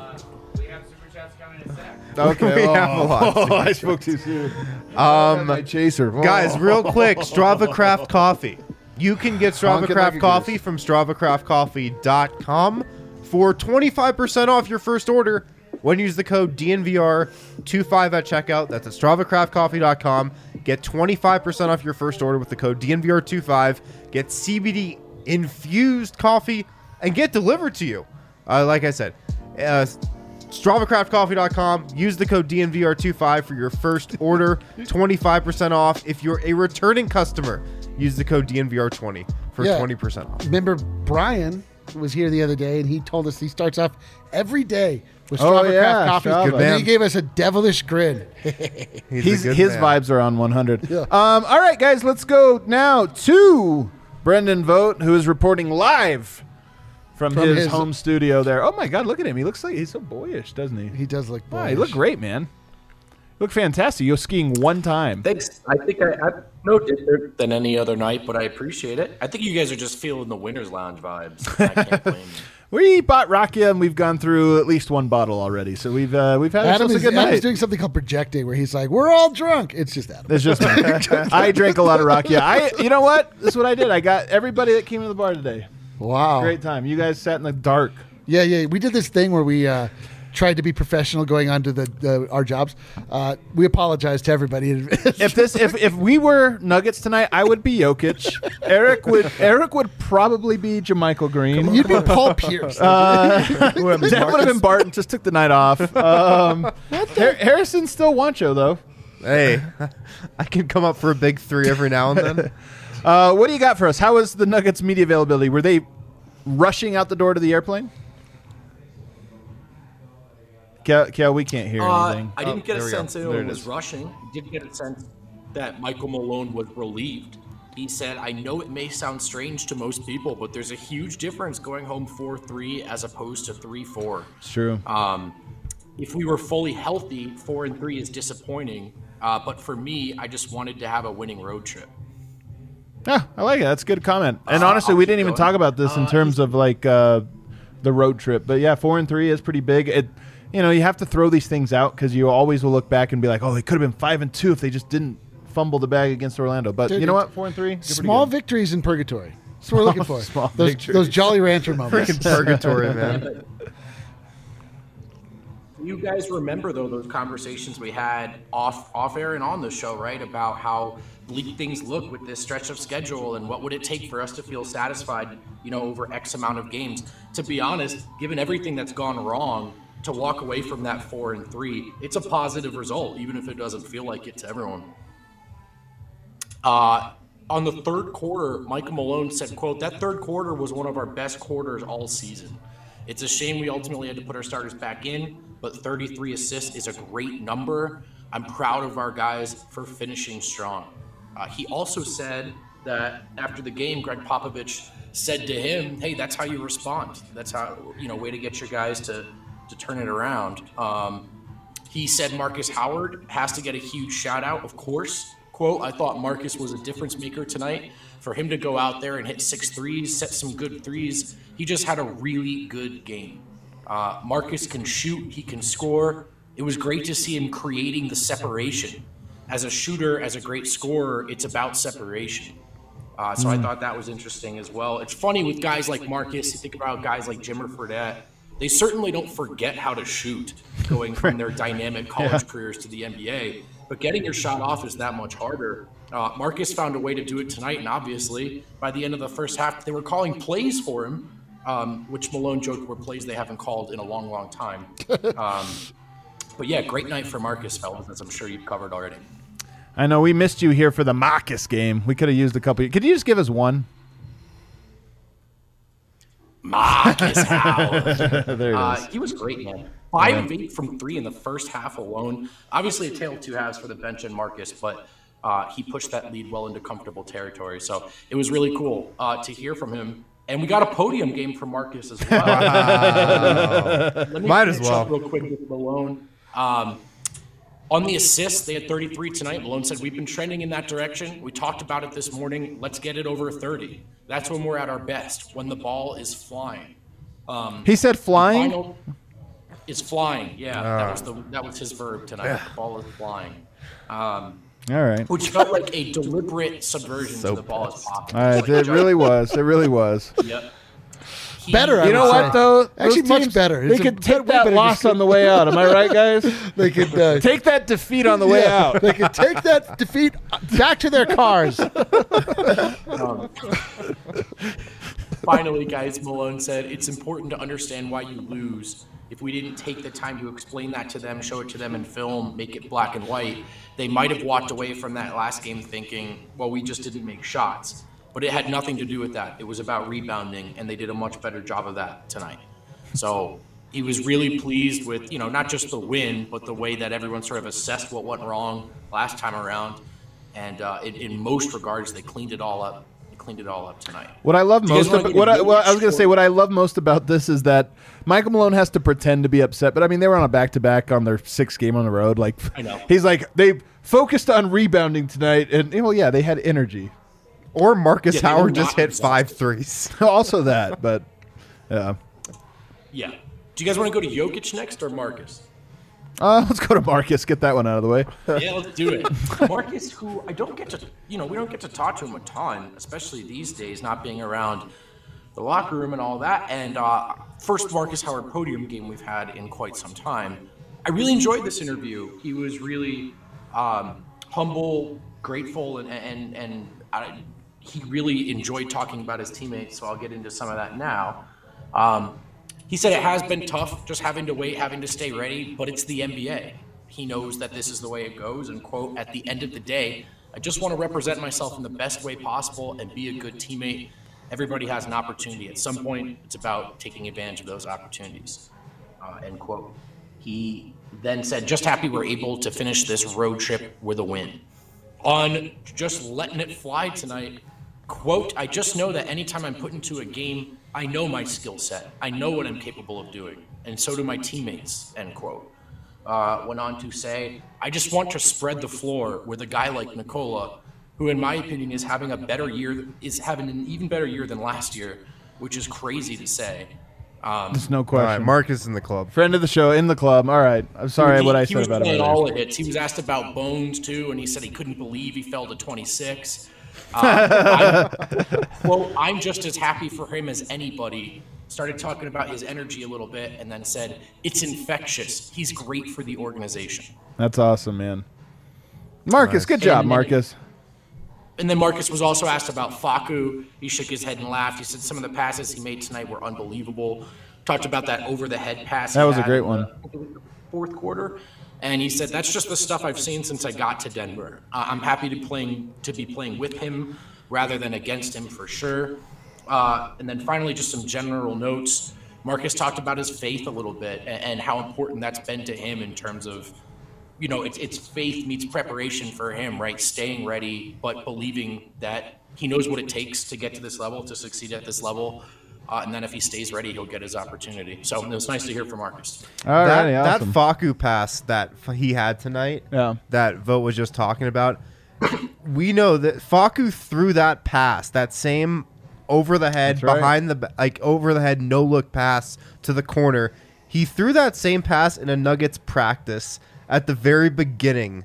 S2: Okay.
S4: We have a lot.
S2: Oh, I spoke too soon.
S4: Um,
S2: My chaser. Oh.
S4: Guys, real quick, Strava Craft Coffee. You can get Strava
S2: Honking
S4: Craft
S2: like a
S4: Coffee
S2: goose.
S4: from strava craft coffee dot com for twenty-five percent off your first order when you use the code D N V R twenty-five at checkout. That's at strava craft coffee dot com. Get twenty-five percent off your first order with the code D N V R twenty-five. Get C B D infused coffee and get delivered to you. Uh, like I said, uh, strava craft coffee dot com. Use the code D N V R twenty-five for your first order. twenty-five percent off. If you're a returning customer, use the code D N V R twenty for
S3: Yeah.
S4: twenty percent off.
S3: Remember Brian was here the other day and he told us he starts off every day with
S2: Oh,
S3: Strava
S2: yeah,
S3: Craft Coffee.
S2: Strava.
S3: And
S2: Good
S3: then
S4: man.
S3: he gave us a devilish grin.
S4: He's
S2: He's,
S4: a good
S2: his
S4: man.
S2: vibes are on one hundred.
S3: Yeah.
S2: Um, all right, guys, let's go now to Brendan Vogt, who is reporting live from,
S3: From
S2: his,
S3: his-
S2: home studio there. Oh, my God, look at him. He looks like he's so boyish, doesn't he?
S3: He does look
S2: Wow,
S3: boyish.
S2: you look great, man. You look fantastic. You're skiing one time.
S6: Thanks. I think I, I'm no different than any other night, but I appreciate it. I think you guys are just feeling the winner's lounge vibes. I can't blame you.
S2: We bought Rakia, and we've gone through at least one bottle already. So we've uh, we've had
S3: Adam
S2: ourselves
S3: is,
S2: a good
S3: Adam's
S2: night.
S3: doing something called projecting where he's like, we're all drunk. It's just Adam.
S2: It's just me. I drank a lot of Rakia. I, you know what? This is what I did. I got everybody that came to the bar today.
S3: Wow.
S2: Great time. You guys sat in the dark.
S3: Yeah, yeah. We did this thing where we uh, tried to be professional going on to the, the our jobs. Uh, we apologize to everybody.
S2: If this, if, if we were Nuggets tonight, I would be Jokic. Eric would Eric would probably be Jamichael Green.
S3: You'd be Paul Pierce.
S2: Uh, that would have been Barton. Just took the night off. Um, Har- Harrison's still Wancho though.
S4: Hey, I can come up for a big three every now and then.
S2: Uh, what do you got for us? How was the Nuggets media availability? Were they rushing out the door to the airplane? Kel, Kel we can't hear
S6: Uh,
S2: anything.
S6: I didn't
S4: Oh,
S6: get a
S4: there we go.
S6: sense that
S4: There
S6: anyone
S4: it
S6: was
S4: is.
S6: rushing. I did get a sense that Michael Malone was relieved. He said, I know it may sound strange to most people, but there's a huge difference going home four three as opposed to three four.
S2: It's true.
S6: Um, if we were fully healthy, four and three is disappointing. Uh, but for me, I just wanted to have a winning road trip.
S2: Yeah, I like it. That's a good comment. And
S6: Uh,
S2: honestly,
S6: I'll
S2: we
S6: keep
S2: didn't even
S6: going.
S2: talk about this in
S6: Uh,
S2: terms of like uh, the road trip. But yeah, four and three is pretty big. It, you know, you have to throw these things out because you always will look back and be like, oh, they could have been five and two if they just didn't fumble the bag against Orlando. But
S3: Dude,
S2: you know what? Four and three, you're pretty
S3: Small
S2: good.
S3: victories in purgatory. That's what we're looking for.
S2: Small
S3: those,
S2: victories.
S3: those Jolly Rancher moments.
S4: Freaking purgatory, man.
S6: You guys remember though those conversations we had off off air and on the show, right? About how bleak things look with this stretch of schedule and what would it take for us to feel satisfied, you know, over X amount of games. To be honest, given everything that's gone wrong, to walk away from that four and three, it's a positive result, even if it doesn't feel like it to everyone. Uh, on the third quarter, Michael Malone said, quote, that third quarter was one of our best quarters all season. It's a shame we ultimately had to put our starters back in, but thirty-three assists is a great number. I'm proud of our guys for finishing strong. Uh, he also said that after the game, Greg Popovich said to him, hey, that's how you respond. That's how, you know, way to get your guys to, to turn it around. Um, he said Marcus Howard has to get a huge shout out, of course. Quote, I thought Marcus was a difference maker tonight. For him to go out there and hit six threes, set some good threes, he just had a really good game. Uh, Marcus can shoot, he can score. It was great to see him creating the separation. As a shooter, as a great scorer, it's about separation. Uh, so mm. I thought that was interesting as well. It's funny with guys like Marcus, you think about guys like Jimmer Fredette, they certainly don't forget how to shoot going from their dynamic college yeah. careers to the N B A. But getting your shot off is that much harder. Uh, Marcus found a way to do it tonight, and obviously, by the end of the first half, they were calling plays for him, um, which Malone joked were plays they haven't called in a long, long time. Um, but yeah, great night for Marcus, fellas, as I'm sure you've covered already.
S2: I know we missed you here for the Marcus game. We could have used a couple. Could you just give us one?
S6: Marcus Howard.
S2: There it
S6: uh,
S2: is.
S6: He was great, man. Five yeah. of eight from three in the first half alone. Obviously, a tale of two halves for the bench and Marcus, but uh, he pushed that lead well into comfortable territory. So it was really cool uh, to hear from him. And we got a podium game from Marcus as well. uh, let me
S4: Might as well.
S6: Real quick with Malone. Um, on the assists, they had thirty-three tonight. Malone said, we've been trending in that direction. We talked about it this morning. Let's get it over thirty. That's when we're at our best, when the ball is flying. Um,
S2: he said flying?
S6: Final is flying, yeah. Uh, that was the that was his verb tonight. Yeah. The ball is flying. Um,
S2: All right.
S6: Which felt like a deliberate subversion so to the ball is popping.
S2: All right,
S6: like
S2: it really was. It really was.
S6: Yep. He,
S3: better, I
S2: You know
S3: would
S2: what,
S3: say.
S2: though?
S3: Actually,
S2: Those
S3: much
S2: teams,
S3: better.
S2: They
S3: It's
S2: could
S3: a
S2: take
S3: way
S2: that
S3: better
S2: loss
S3: to-
S2: on the way out. Am I right, guys?
S3: They could uh,
S2: Take that defeat on the way
S3: yeah,
S2: out.
S3: They could take that defeat back to their cars.
S6: Um, finally, guys, Malone said, it's important to understand why you lose. If we didn't take the time to explain that to them, show it to them in film, make it black and white, they might have walked away from that last game thinking, well, we just didn't make shots. But it had nothing to do with that. It was about rebounding, and they did a much better job of that tonight. So he was really pleased with, you know, not just the win, but the way that everyone sort of assessed what went wrong last time around. And uh, in, in most regards, they cleaned it all up. They cleaned it all up tonight.
S2: What I love
S6: Do you guys
S2: most
S6: wanna
S2: about
S6: get
S2: what I,
S6: into
S2: well, I was going to
S6: short-
S2: say what I love most about this is that Michael Malone has to pretend to be upset, but I mean they were on a back to back on their sixth game on the road. Like
S6: I know.
S2: he's like they focused on rebounding tonight, and well, yeah, they had energy.
S4: Or Marcus
S6: Yeah, they were
S4: Howard just
S6: not
S4: hit five
S6: exhausted.
S4: threes.
S2: Also that, but yeah.
S6: Yeah. Do you guys want to go to Jokic next or Marcus?
S2: Uh, let's go to Marcus. Get that one out of the way.
S6: Yeah, let's do it. Marcus, who I don't get to, you know, we don't get to talk to him a ton, especially these days, not being around the locker room and all that. And uh, first Marcus Howard podium game we've had in quite some time. I really enjoyed this interview. He was really um, humble, grateful, and and and I, he really enjoyed talking about his teammates. So I'll get into some of that now. Um, He said it has been tough, just having to wait, having to stay ready, but it's the N B A. He knows that this is the way it goes, and quote, at the end of the day, I just want to represent myself in the best way possible and be a good teammate. Everybody has an opportunity. At some point, it's about taking advantage of those opportunities, uh, end quote. He then said, just happy we're able to finish this road trip with a win. On just letting it fly tonight, quote, I just know that anytime I'm put into a game, I know my skill set. I know what I'm capable of doing. And so do my teammates, end quote. Uh, went on to say, I just want to spread the floor with a guy like Nikola, who in my opinion is having a better year, is having an even better year than last year, which is crazy to say. Um,
S2: There's no
S4: All
S2: question.
S4: right, Marcus in the club.
S2: Friend of the show, in the club. All right. I'm sorry
S6: he,
S2: what I
S6: he
S2: said
S6: was
S2: about
S6: playing
S2: him.
S6: all the hits. He was asked about Bones too, and he said he couldn't believe he fell to twenty-six. Uh, I'm, well, I'm just as happy for him as anybody. Started talking about his energy a little bit, and then said it's infectious. He's great for the organization.
S2: That's awesome, man. Marcus, good job,
S6: And then-
S2: Marcus.
S6: And then Marcus was also asked about Facu. He shook his head and laughed. He said some of the passes he made tonight were unbelievable. Talked about that over-the-head pass.
S2: That
S6: he
S2: was a
S6: had
S2: great
S6: in
S2: one.
S6: the fourth quarter. And he said, that's just the stuff I've seen since I got to Denver. Uh, I'm happy to playing to be playing with him rather than against him for sure. Uh, and then finally, just some general notes. Marcus talked about his faith a little bit and, and how important that's been to him in terms of you know, it's, it's faith meets preparation for him, right? Staying ready, but believing that he knows what it takes to get to this level, to succeed at this level. Uh, and then if he stays ready, he'll get his opportunity. So it was nice to hear from Marcus.
S2: All
S4: that,
S2: right, awesome.
S4: that Facu pass that f- he had tonight,
S2: Yeah.
S4: that Vogt was just talking about, we know that Facu threw that pass, that same over the head,
S2: That's right.
S4: behind the ba- like over the head, no look pass to the corner. He threw that same pass in a Nuggets practice at the very beginning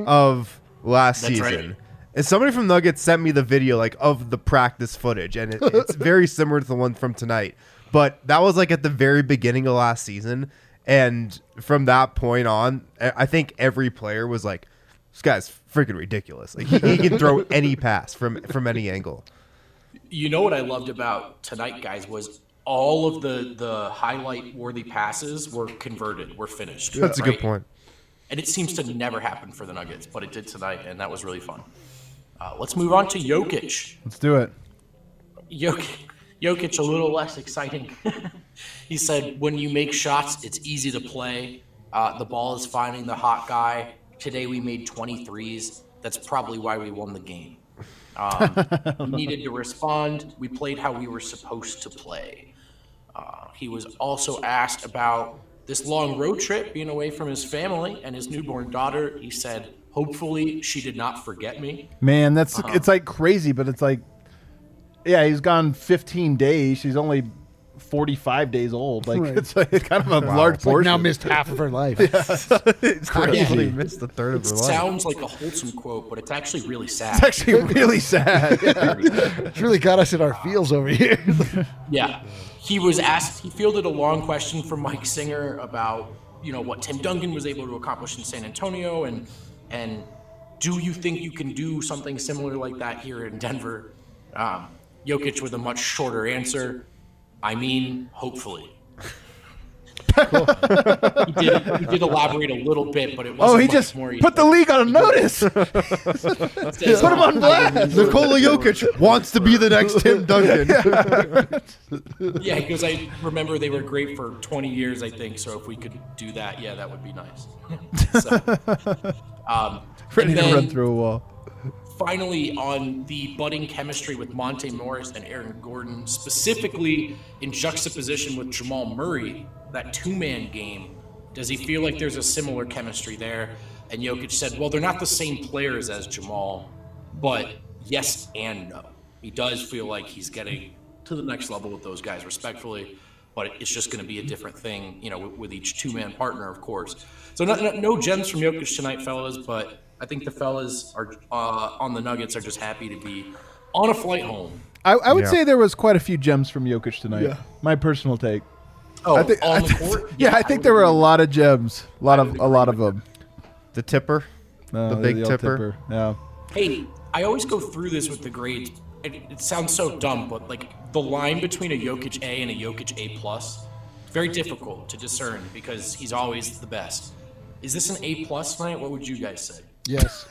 S4: of last
S6: That's
S4: season.
S6: right.
S4: And somebody from Nuggets sent me the video like of the practice footage, and it, it's very similar to the one from tonight. But that was like at the very beginning of last season, and from that point on, I I think every player was like, "This guy's freaking ridiculous. Like he, he can throw any pass from from any angle."
S6: You know what I loved about tonight, guys, was all of the, the highlight-worthy passes were converted, were finished.
S4: That's a
S6: right?
S4: good point.
S6: And it seems to never happen for the Nuggets, but it did tonight, and that was really fun. Uh, let's move on to Jokic.
S2: Let's do it.
S6: Jokic, Jokic a little less exciting. He said, when you make shots, it's easy to play. Uh, the ball is finding the hot guy. Today we made twenty-threes. That's probably why we won the game. Um, we needed to respond. We played how we were supposed to play. Uh, he was also asked about this long road trip, being away from his family and his newborn daughter. He said, hopefully she did not forget me.
S2: Man, that's
S6: Uh-huh.
S2: it's like crazy, but it's like, yeah, he's gone fifteen days. She's only forty-five days old. Like
S3: Right.
S2: it's, like, it's kind of a large
S3: It's like
S2: portion.
S3: now missed half of her life.
S2: it's
S4: He
S2: crazy.
S4: missed a third of
S6: It
S4: her life.
S6: sounds like a wholesome quote, but it's actually really sad.
S2: It's actually really sad.
S3: It's really got us in our feels over here.
S6: Yeah. He was asked, he fielded a long question from Mike Singer about, you know, what Tim Duncan was able to accomplish in San Antonio, and and do you think you can do something similar like that here in Denver? Um, Jokic with a much shorter answer. I mean, hopefully. he, did, he did elaborate a little bit, but it wasn't
S2: Oh, he
S6: much
S2: just
S6: more.
S2: put the league on notice.
S6: Put
S2: him on blast.
S4: Nikola Jokic wants to be the next Tim Duncan.
S6: Yeah, because I remember they were great for twenty years, I think. So if we could do that, yeah, that would be nice. so, um,
S2: Ready
S6: and
S2: to
S6: then
S2: run through a wall.
S6: Finally, on the budding chemistry with Monte Morris and Aaron Gordon, specifically in juxtaposition with Jamal Murray, that two-man game, does he feel like there's a similar chemistry there? And Jokic said, well, they're not the same players as Jamal, but yes and no. He does feel like he's getting to the next level with those guys, respectfully, but it's just going to be a different thing, you know, with, with each two-man partner, of course. So no, no, no gems from Jokic tonight, fellas, but I think the fellas are uh, on the Nuggets are just happy to be on a flight home.
S2: I, I would
S4: Yeah.
S2: say there was quite a few gems from Jokic tonight. My personal take.
S6: Oh,
S2: I think,
S6: on
S2: I
S6: the
S2: think-
S6: court?
S2: yeah, I think
S6: would
S2: there were a
S6: agree.
S2: lot of gems. A lot
S6: I
S2: of
S6: would
S2: a lot of
S6: agree with
S2: them.
S4: The tipper.
S2: Uh,
S4: The big
S2: old
S4: tipper.
S2: Yeah.
S6: Hey, I always go through this with the grades. It, it sounds so dumb, but like the line between a Jokic A and a Jokic A plus, very difficult to discern because he's always the best. Is this an A plus tonight? What would you guys say?
S3: Yes.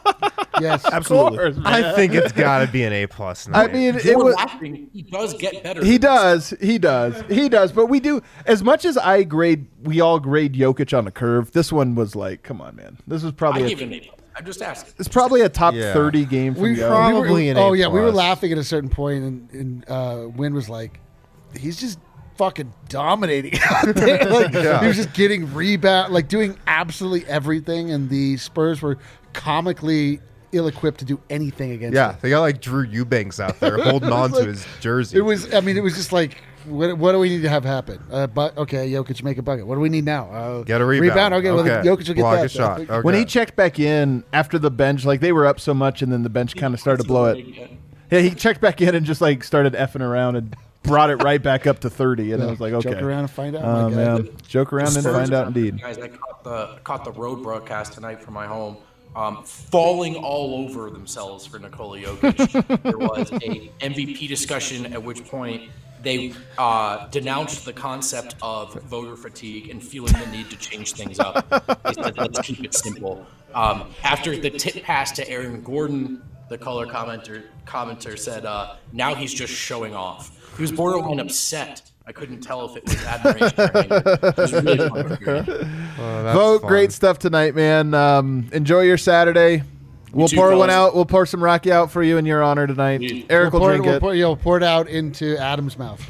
S3: Yes.
S5: Absolutely.
S4: I think it's got to be an A plus.
S2: I mean, it
S6: You're
S2: was.
S6: laughing. He does get better.
S2: He
S6: than this.
S2: does. He does. He does. But we do as much as I grade. We all grade Jokic on the curve. This one was like, come on, man. This was
S6: I
S2: probably.
S6: give
S2: A,
S6: it an A plus. I'm just asking.
S2: it's probably a top
S4: Yeah.
S2: thirty game from
S3: We,
S2: Jokic.
S4: probably
S3: we were,
S4: an
S3: oh
S4: A
S3: yeah, we were
S4: plus.
S3: laughing at a certain point, and, and uh, Wynn was like, "He's just fucking dominating out there. Like,
S4: Yeah.
S3: He was just getting rebound, like doing absolutely everything, and the Spurs were comically ill-equipped to do anything against
S4: Yeah,
S3: him.
S4: they got like Drew Eubanks out there holding on
S3: like-
S4: to his jersey.
S3: It was. I mean, it was just like, what, what do we need to have happen? Uh, but okay, Jokic make a bucket. What do we need now? Uh,
S4: Get a rebound.
S3: Okay, well,
S4: Okay.
S3: Jokic will get
S4: Block
S3: that.
S4: a shot. Okay.
S2: When he checked back in after the bench, like they were up so much, and then the bench kind of started to blow it. Yeah, he checked back in and just like started effing around and brought it right back up to thirty, and I was like, okay,
S3: Joke around and find out.
S2: Oh
S3: my guy.
S2: man, joke around and
S6: Spurs
S2: find out.
S6: company,
S2: Indeed.
S6: Guys, I caught the caught the road broadcast tonight from my home, um, falling all over themselves for Nikola Jokic. There was a M V P discussion at which point they uh, denounced the concept of voter fatigue and feeling the need to change things up. They said, let's keep it simple. Um, after the tip pass to Aaron Gordon, the color commenter commenter said, uh, now he's just showing off. He was borderline upset, I couldn't tell if it was admiration or anger. It was really fun to hear.
S4: Oh, that's
S2: Vote,
S4: fun.
S2: great stuff tonight, man. Um, enjoy your Saturday. We'll
S6: too,
S2: pour one
S6: fellas.
S2: out. We'll pour some Rocky out for you in your honor tonight.
S6: Sweet.
S2: Eric
S3: We'll
S2: will
S3: pour,
S2: drink
S3: we'll
S2: it.
S3: pour, you'll pour it out into Adam's mouth.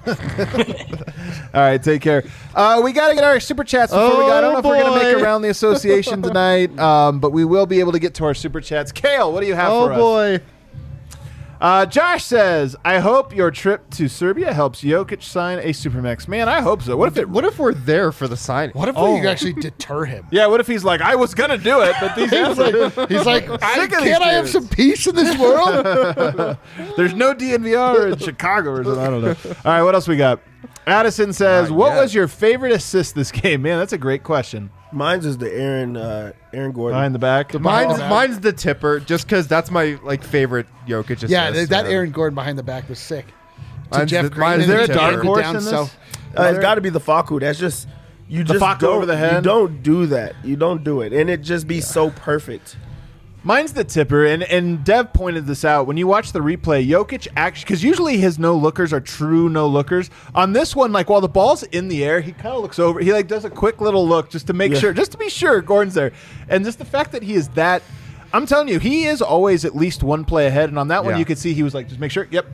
S2: All right, take care. Uh, we got to get our super chats before we go. I don't know if we're going to make
S4: boy.
S2: around the association tonight, um, but we will be able to get to our super chats. Kale, what do you have
S4: Oh
S2: for us?
S4: boy.
S2: Uh, Josh says, I hope your trip to Serbia helps Jokic sign a Supermax. Man, I hope so. What if it?
S4: What if we're there for the signing?
S3: What if
S2: Oh.
S3: we could actually deter him?
S2: Yeah, what if he's like, I was going to do it, but these
S3: He's like, he's like I,
S2: Sick of these
S3: can't I have
S2: dudes."
S3: some peace in this world?
S2: There's no D N V R in Chicago or something. I don't know. All right, what else we got? Addison says,
S4: Not
S2: what
S4: yet.
S2: was your favorite assist this game? Man, that's a great question.
S5: Mine's is the Aaron uh, Aaron Gordon.
S2: Behind the back.
S4: Mine's
S3: Oh.
S4: mine's the tipper, just because that's my like favorite Jokic assist.
S3: yeah, that, that
S4: man.
S3: Aaron Gordon behind the back was sick. To
S4: Mine's
S3: Jeff
S4: the-
S3: Green,
S4: mine's
S3: and
S2: the
S3: then
S2: tipper.
S3: David
S2: Horse
S3: down
S2: in this?
S3: south.
S5: Uh, it's got to be the Faku. That's just you just
S2: Facu
S5: don't,
S2: over the head?
S5: You don't do that. You don't do it, and it just be so perfect.
S2: Mine's the tipper, and, and Dev pointed this out. When you watch the replay, Jokic actually, because usually his no-lookers are true no-lookers. On this one, like, while the ball's in the air, he kind of looks over. He, like, does a quick little look just to make
S5: Yeah.
S2: sure, just to be sure Gordon's there. And just the fact that he is that, I'm telling you, he is always at least one play ahead. And on that one,
S4: Yeah.
S2: you could see he was like, just make sure, yep.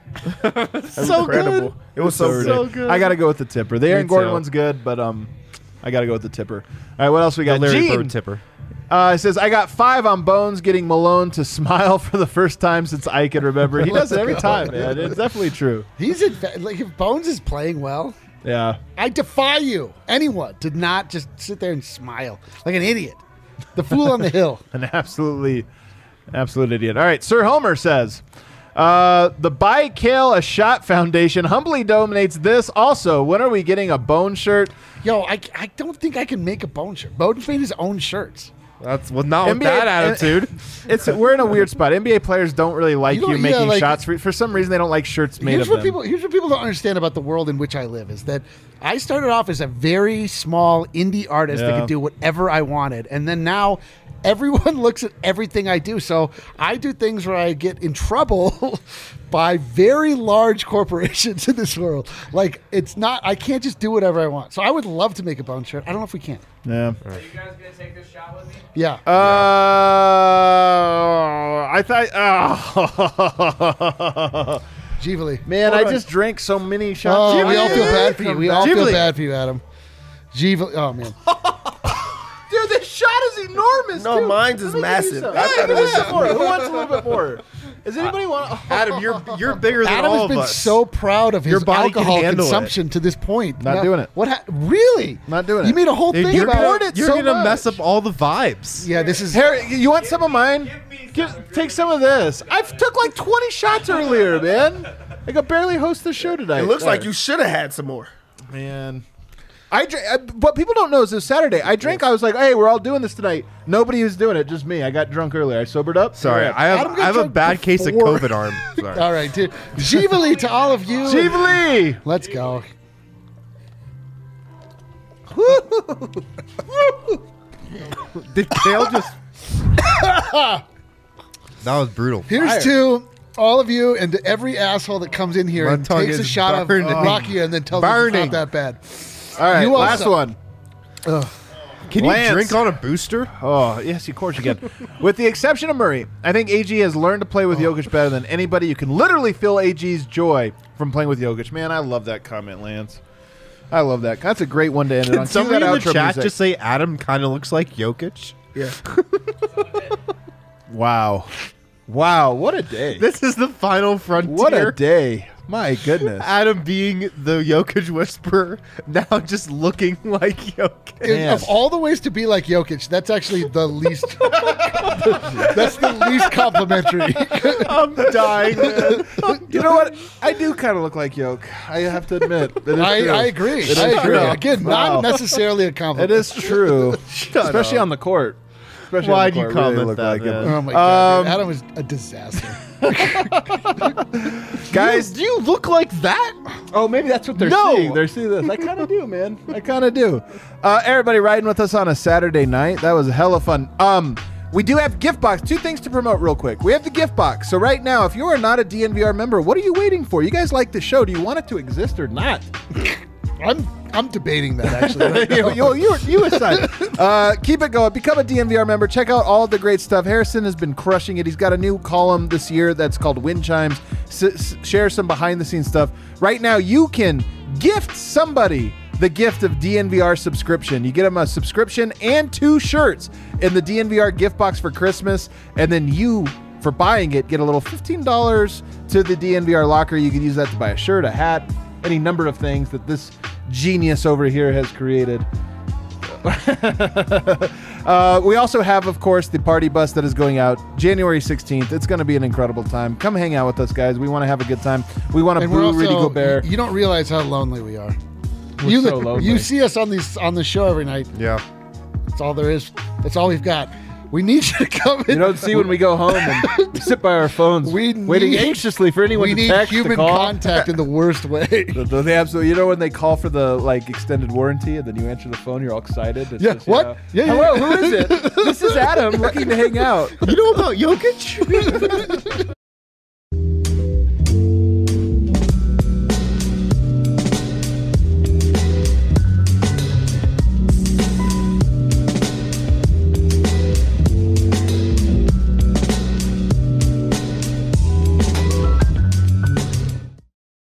S5: So incredible. It was so
S2: Absurd.
S5: good.
S4: So good.
S2: I got to go with the tipper. The Aaron
S4: Me
S2: Gordon
S4: too.
S2: one's good, but um, I got to go with the tipper. All right, what else we
S4: The
S2: got?
S4: Larry
S2: Gene
S4: Bird tipper.
S2: Uh, it says, I got five on Bones getting Malone to smile for the first time since I can remember. He does it every time, man. It's definitely true.
S3: He's in, like if Bones is playing well,
S2: Yeah.
S3: I defy you, anyone, to not just sit there and smile like an idiot. The fool on the hill.
S2: An absolutely, absolute idiot. All right. Sir Homer says, uh, the Buy Kale a Shot Foundation humbly donates this. Also, when are we getting a Bone shirt?
S3: Yo, I, I don't think I can make a Bone shirt. Bones made his own shirts.
S4: That's well, not
S2: N B A
S4: with that attitude.
S2: It's We're in a weird spot. N B A players don't really like
S3: You
S2: you,
S3: don't- yeah,
S2: making
S3: like-
S2: shots. For, for some reason, they don't like shirts made
S3: Here's
S2: of
S3: what
S2: them.
S3: people here's what people don't understand about the world in which I live is that I started off as a very small indie artist that
S2: Yeah.
S3: could do whatever I wanted, and then now everyone looks at everything I do. So I do things where I get in trouble by very large corporations in this world. Like it's not I can't just do whatever I want. So I would love to make a Bone shirt. I don't know if we can.
S2: yeah.
S7: Are you guys gonna take this shot with me?
S3: Yeah.
S2: Uh, I thought. Oh.
S3: Givali.
S2: Man, I just drank so many
S3: Oh,
S2: shots.
S3: we all feel bad for you. We all feel
S4: Givali.
S3: bad for you, Adam. Givali. Oh man.
S2: Dude, this shot is enormous.
S5: No,
S2: dude.
S5: mine's is
S2: Let me give you
S5: massive.
S2: some.
S5: I
S2: Hey,
S5: thought it
S2: who
S5: was
S2: wants more? Who wants a little bit more? Does anybody want?
S4: Adam, you're you're bigger than
S3: Adam
S4: all
S3: has
S4: of
S3: been
S4: us.
S3: so proud of his
S4: Your body can
S3: alcohol
S4: handle it.
S3: consumption to this point.
S2: Not
S3: Now-
S2: doing it.
S3: What? Ha- really?
S2: Not doing
S3: You
S2: it.
S3: made a whole
S4: Dude,
S3: thing
S4: you're
S3: about
S2: poured
S3: it.
S2: it
S4: you're
S2: so
S4: gonna
S2: much.
S4: mess up all the vibes.
S3: Yeah, this is.
S2: Harry, you want some of mine? Give, take some of this. I took like twenty shots earlier, man. I could barely host the show tonight.
S5: It looks like
S2: Sorry.
S5: you should have had some more.
S2: Man. I drank, uh, what people don't know is this Saturday. I drank. I was like, "Hey, we're all doing this tonight." Nobody was doing it, just me. I got drunk earlier. I sobered up.
S4: Sorry,
S2: Yeah.
S4: I have
S3: Adam got
S4: I have a
S3: drunk
S4: bad case of
S3: before.
S4: COVID arm. Sorry.
S3: All right, dude. Givali to all of you.
S2: Givali.
S3: Let's go.
S4: Did Kale just? That was brutal.
S3: Here's
S2: Fire.
S3: to all of you and to every asshole that comes in here
S4: My
S3: and
S4: tongue
S3: takes a
S4: is
S3: shot of
S4: burning.
S3: Rocky and then tells us it's
S4: Burning.
S3: not that bad.
S2: All right,
S3: You
S2: last
S3: also-
S2: one.
S4: Can you
S2: Lance.
S4: drink on a booster?
S2: Oh, yes, of course you can. With the exception of Murray, I think A G has learned to play with Jokic better than anybody. You can literally feel A G's joy from playing with Jokic. Man, I love that comment, Lance. I love that. That's a great one to end it on.
S4: Can
S2: Cue
S4: somebody
S2: that
S4: in the
S2: outro
S4: chat
S2: music.
S4: just say Adam kind of looks like Jokic?
S5: Yeah.
S2: Wow. Wow, what a day.
S4: This is the final frontier.
S2: What a day. My goodness.
S4: Adam being the Jokic whisperer, now just looking like Jokic.
S3: Dude,
S2: Man.
S3: of all the ways to be like Jokic, that's actually the least. That's the least complimentary.
S4: I'm dying, man.
S2: You know what? I do kind of look like Yoke. I have to admit. It is
S3: I,
S2: true.
S3: I agree.
S2: It
S3: I
S2: is
S3: agree.
S2: true.
S3: Again,
S2: Wow.
S3: not necessarily a compliment.
S2: It is true. Especially on the court. Especially on
S4: Why'd
S2: the
S4: you
S2: court. Really
S4: comment
S2: look
S4: that,
S2: like him.
S4: man?
S3: Oh my god,
S2: Um,
S3: dude. Adam is a disaster.
S2: Guys,
S4: do you look like that?
S2: oh, maybe that's what they're
S4: No.
S2: seeing. They're seeing this. I kind of do, man. I kind of do. Uh, everybody riding with us on a Saturday night. That was hella fun. Um, we do have gift box. Two things to promote real quick. We have the gift box. So right now, if you are not a D N V R member, what are you waiting for? You guys like the show. Do you want it to exist or not?
S3: I'm I'm debating that actually. Right now.
S2: you, you, you aside. Uh, keep it going. Become a D N V R member. Check out all the great stuff. Harrison has been crushing it. He's got a new column this year that's called Wind Chimes. S- s- share some behind the scenes stuff. Right now, you can gift somebody the gift of D N V R subscription. You get them a subscription and two shirts in the D N V R gift box for Christmas. And then you, for buying it, get a little fifteen dollars to the D N V R locker. You can use that to buy a shirt, a hat, any number of things that this genius over here has created. uh, we also have, of course, the party bus that is going out January sixteenth. It's going to be an incredible time. Come hang out with us, guys. We want to have a good time. We want to
S3: And we're
S2: boo
S3: also,
S2: Rudy Gobert.
S3: You don't realize how lonely we are.
S2: We're
S3: you
S2: so lonely.
S3: you see us on these on the show every night.
S4: Yeah.
S3: That's all there is. That's all we've got. We need you to come in.
S2: You don't see when we go home and we sit by our phones,
S3: We
S2: waiting
S3: need-
S2: anxiously for anyone
S3: we
S2: to
S3: need
S2: text to
S3: human
S2: call.
S3: contact in the worst way.
S2: The- the- They absolutely. You know when they call for the like extended warranty, and then you answer the phone, you're all excited. It's
S3: Yeah,
S2: just, you
S3: what?
S2: know,
S3: Yeah, yeah,
S2: Hello,
S3: yeah.
S2: who is it? This is Adam, looking to hang out.
S4: You know about Jokic?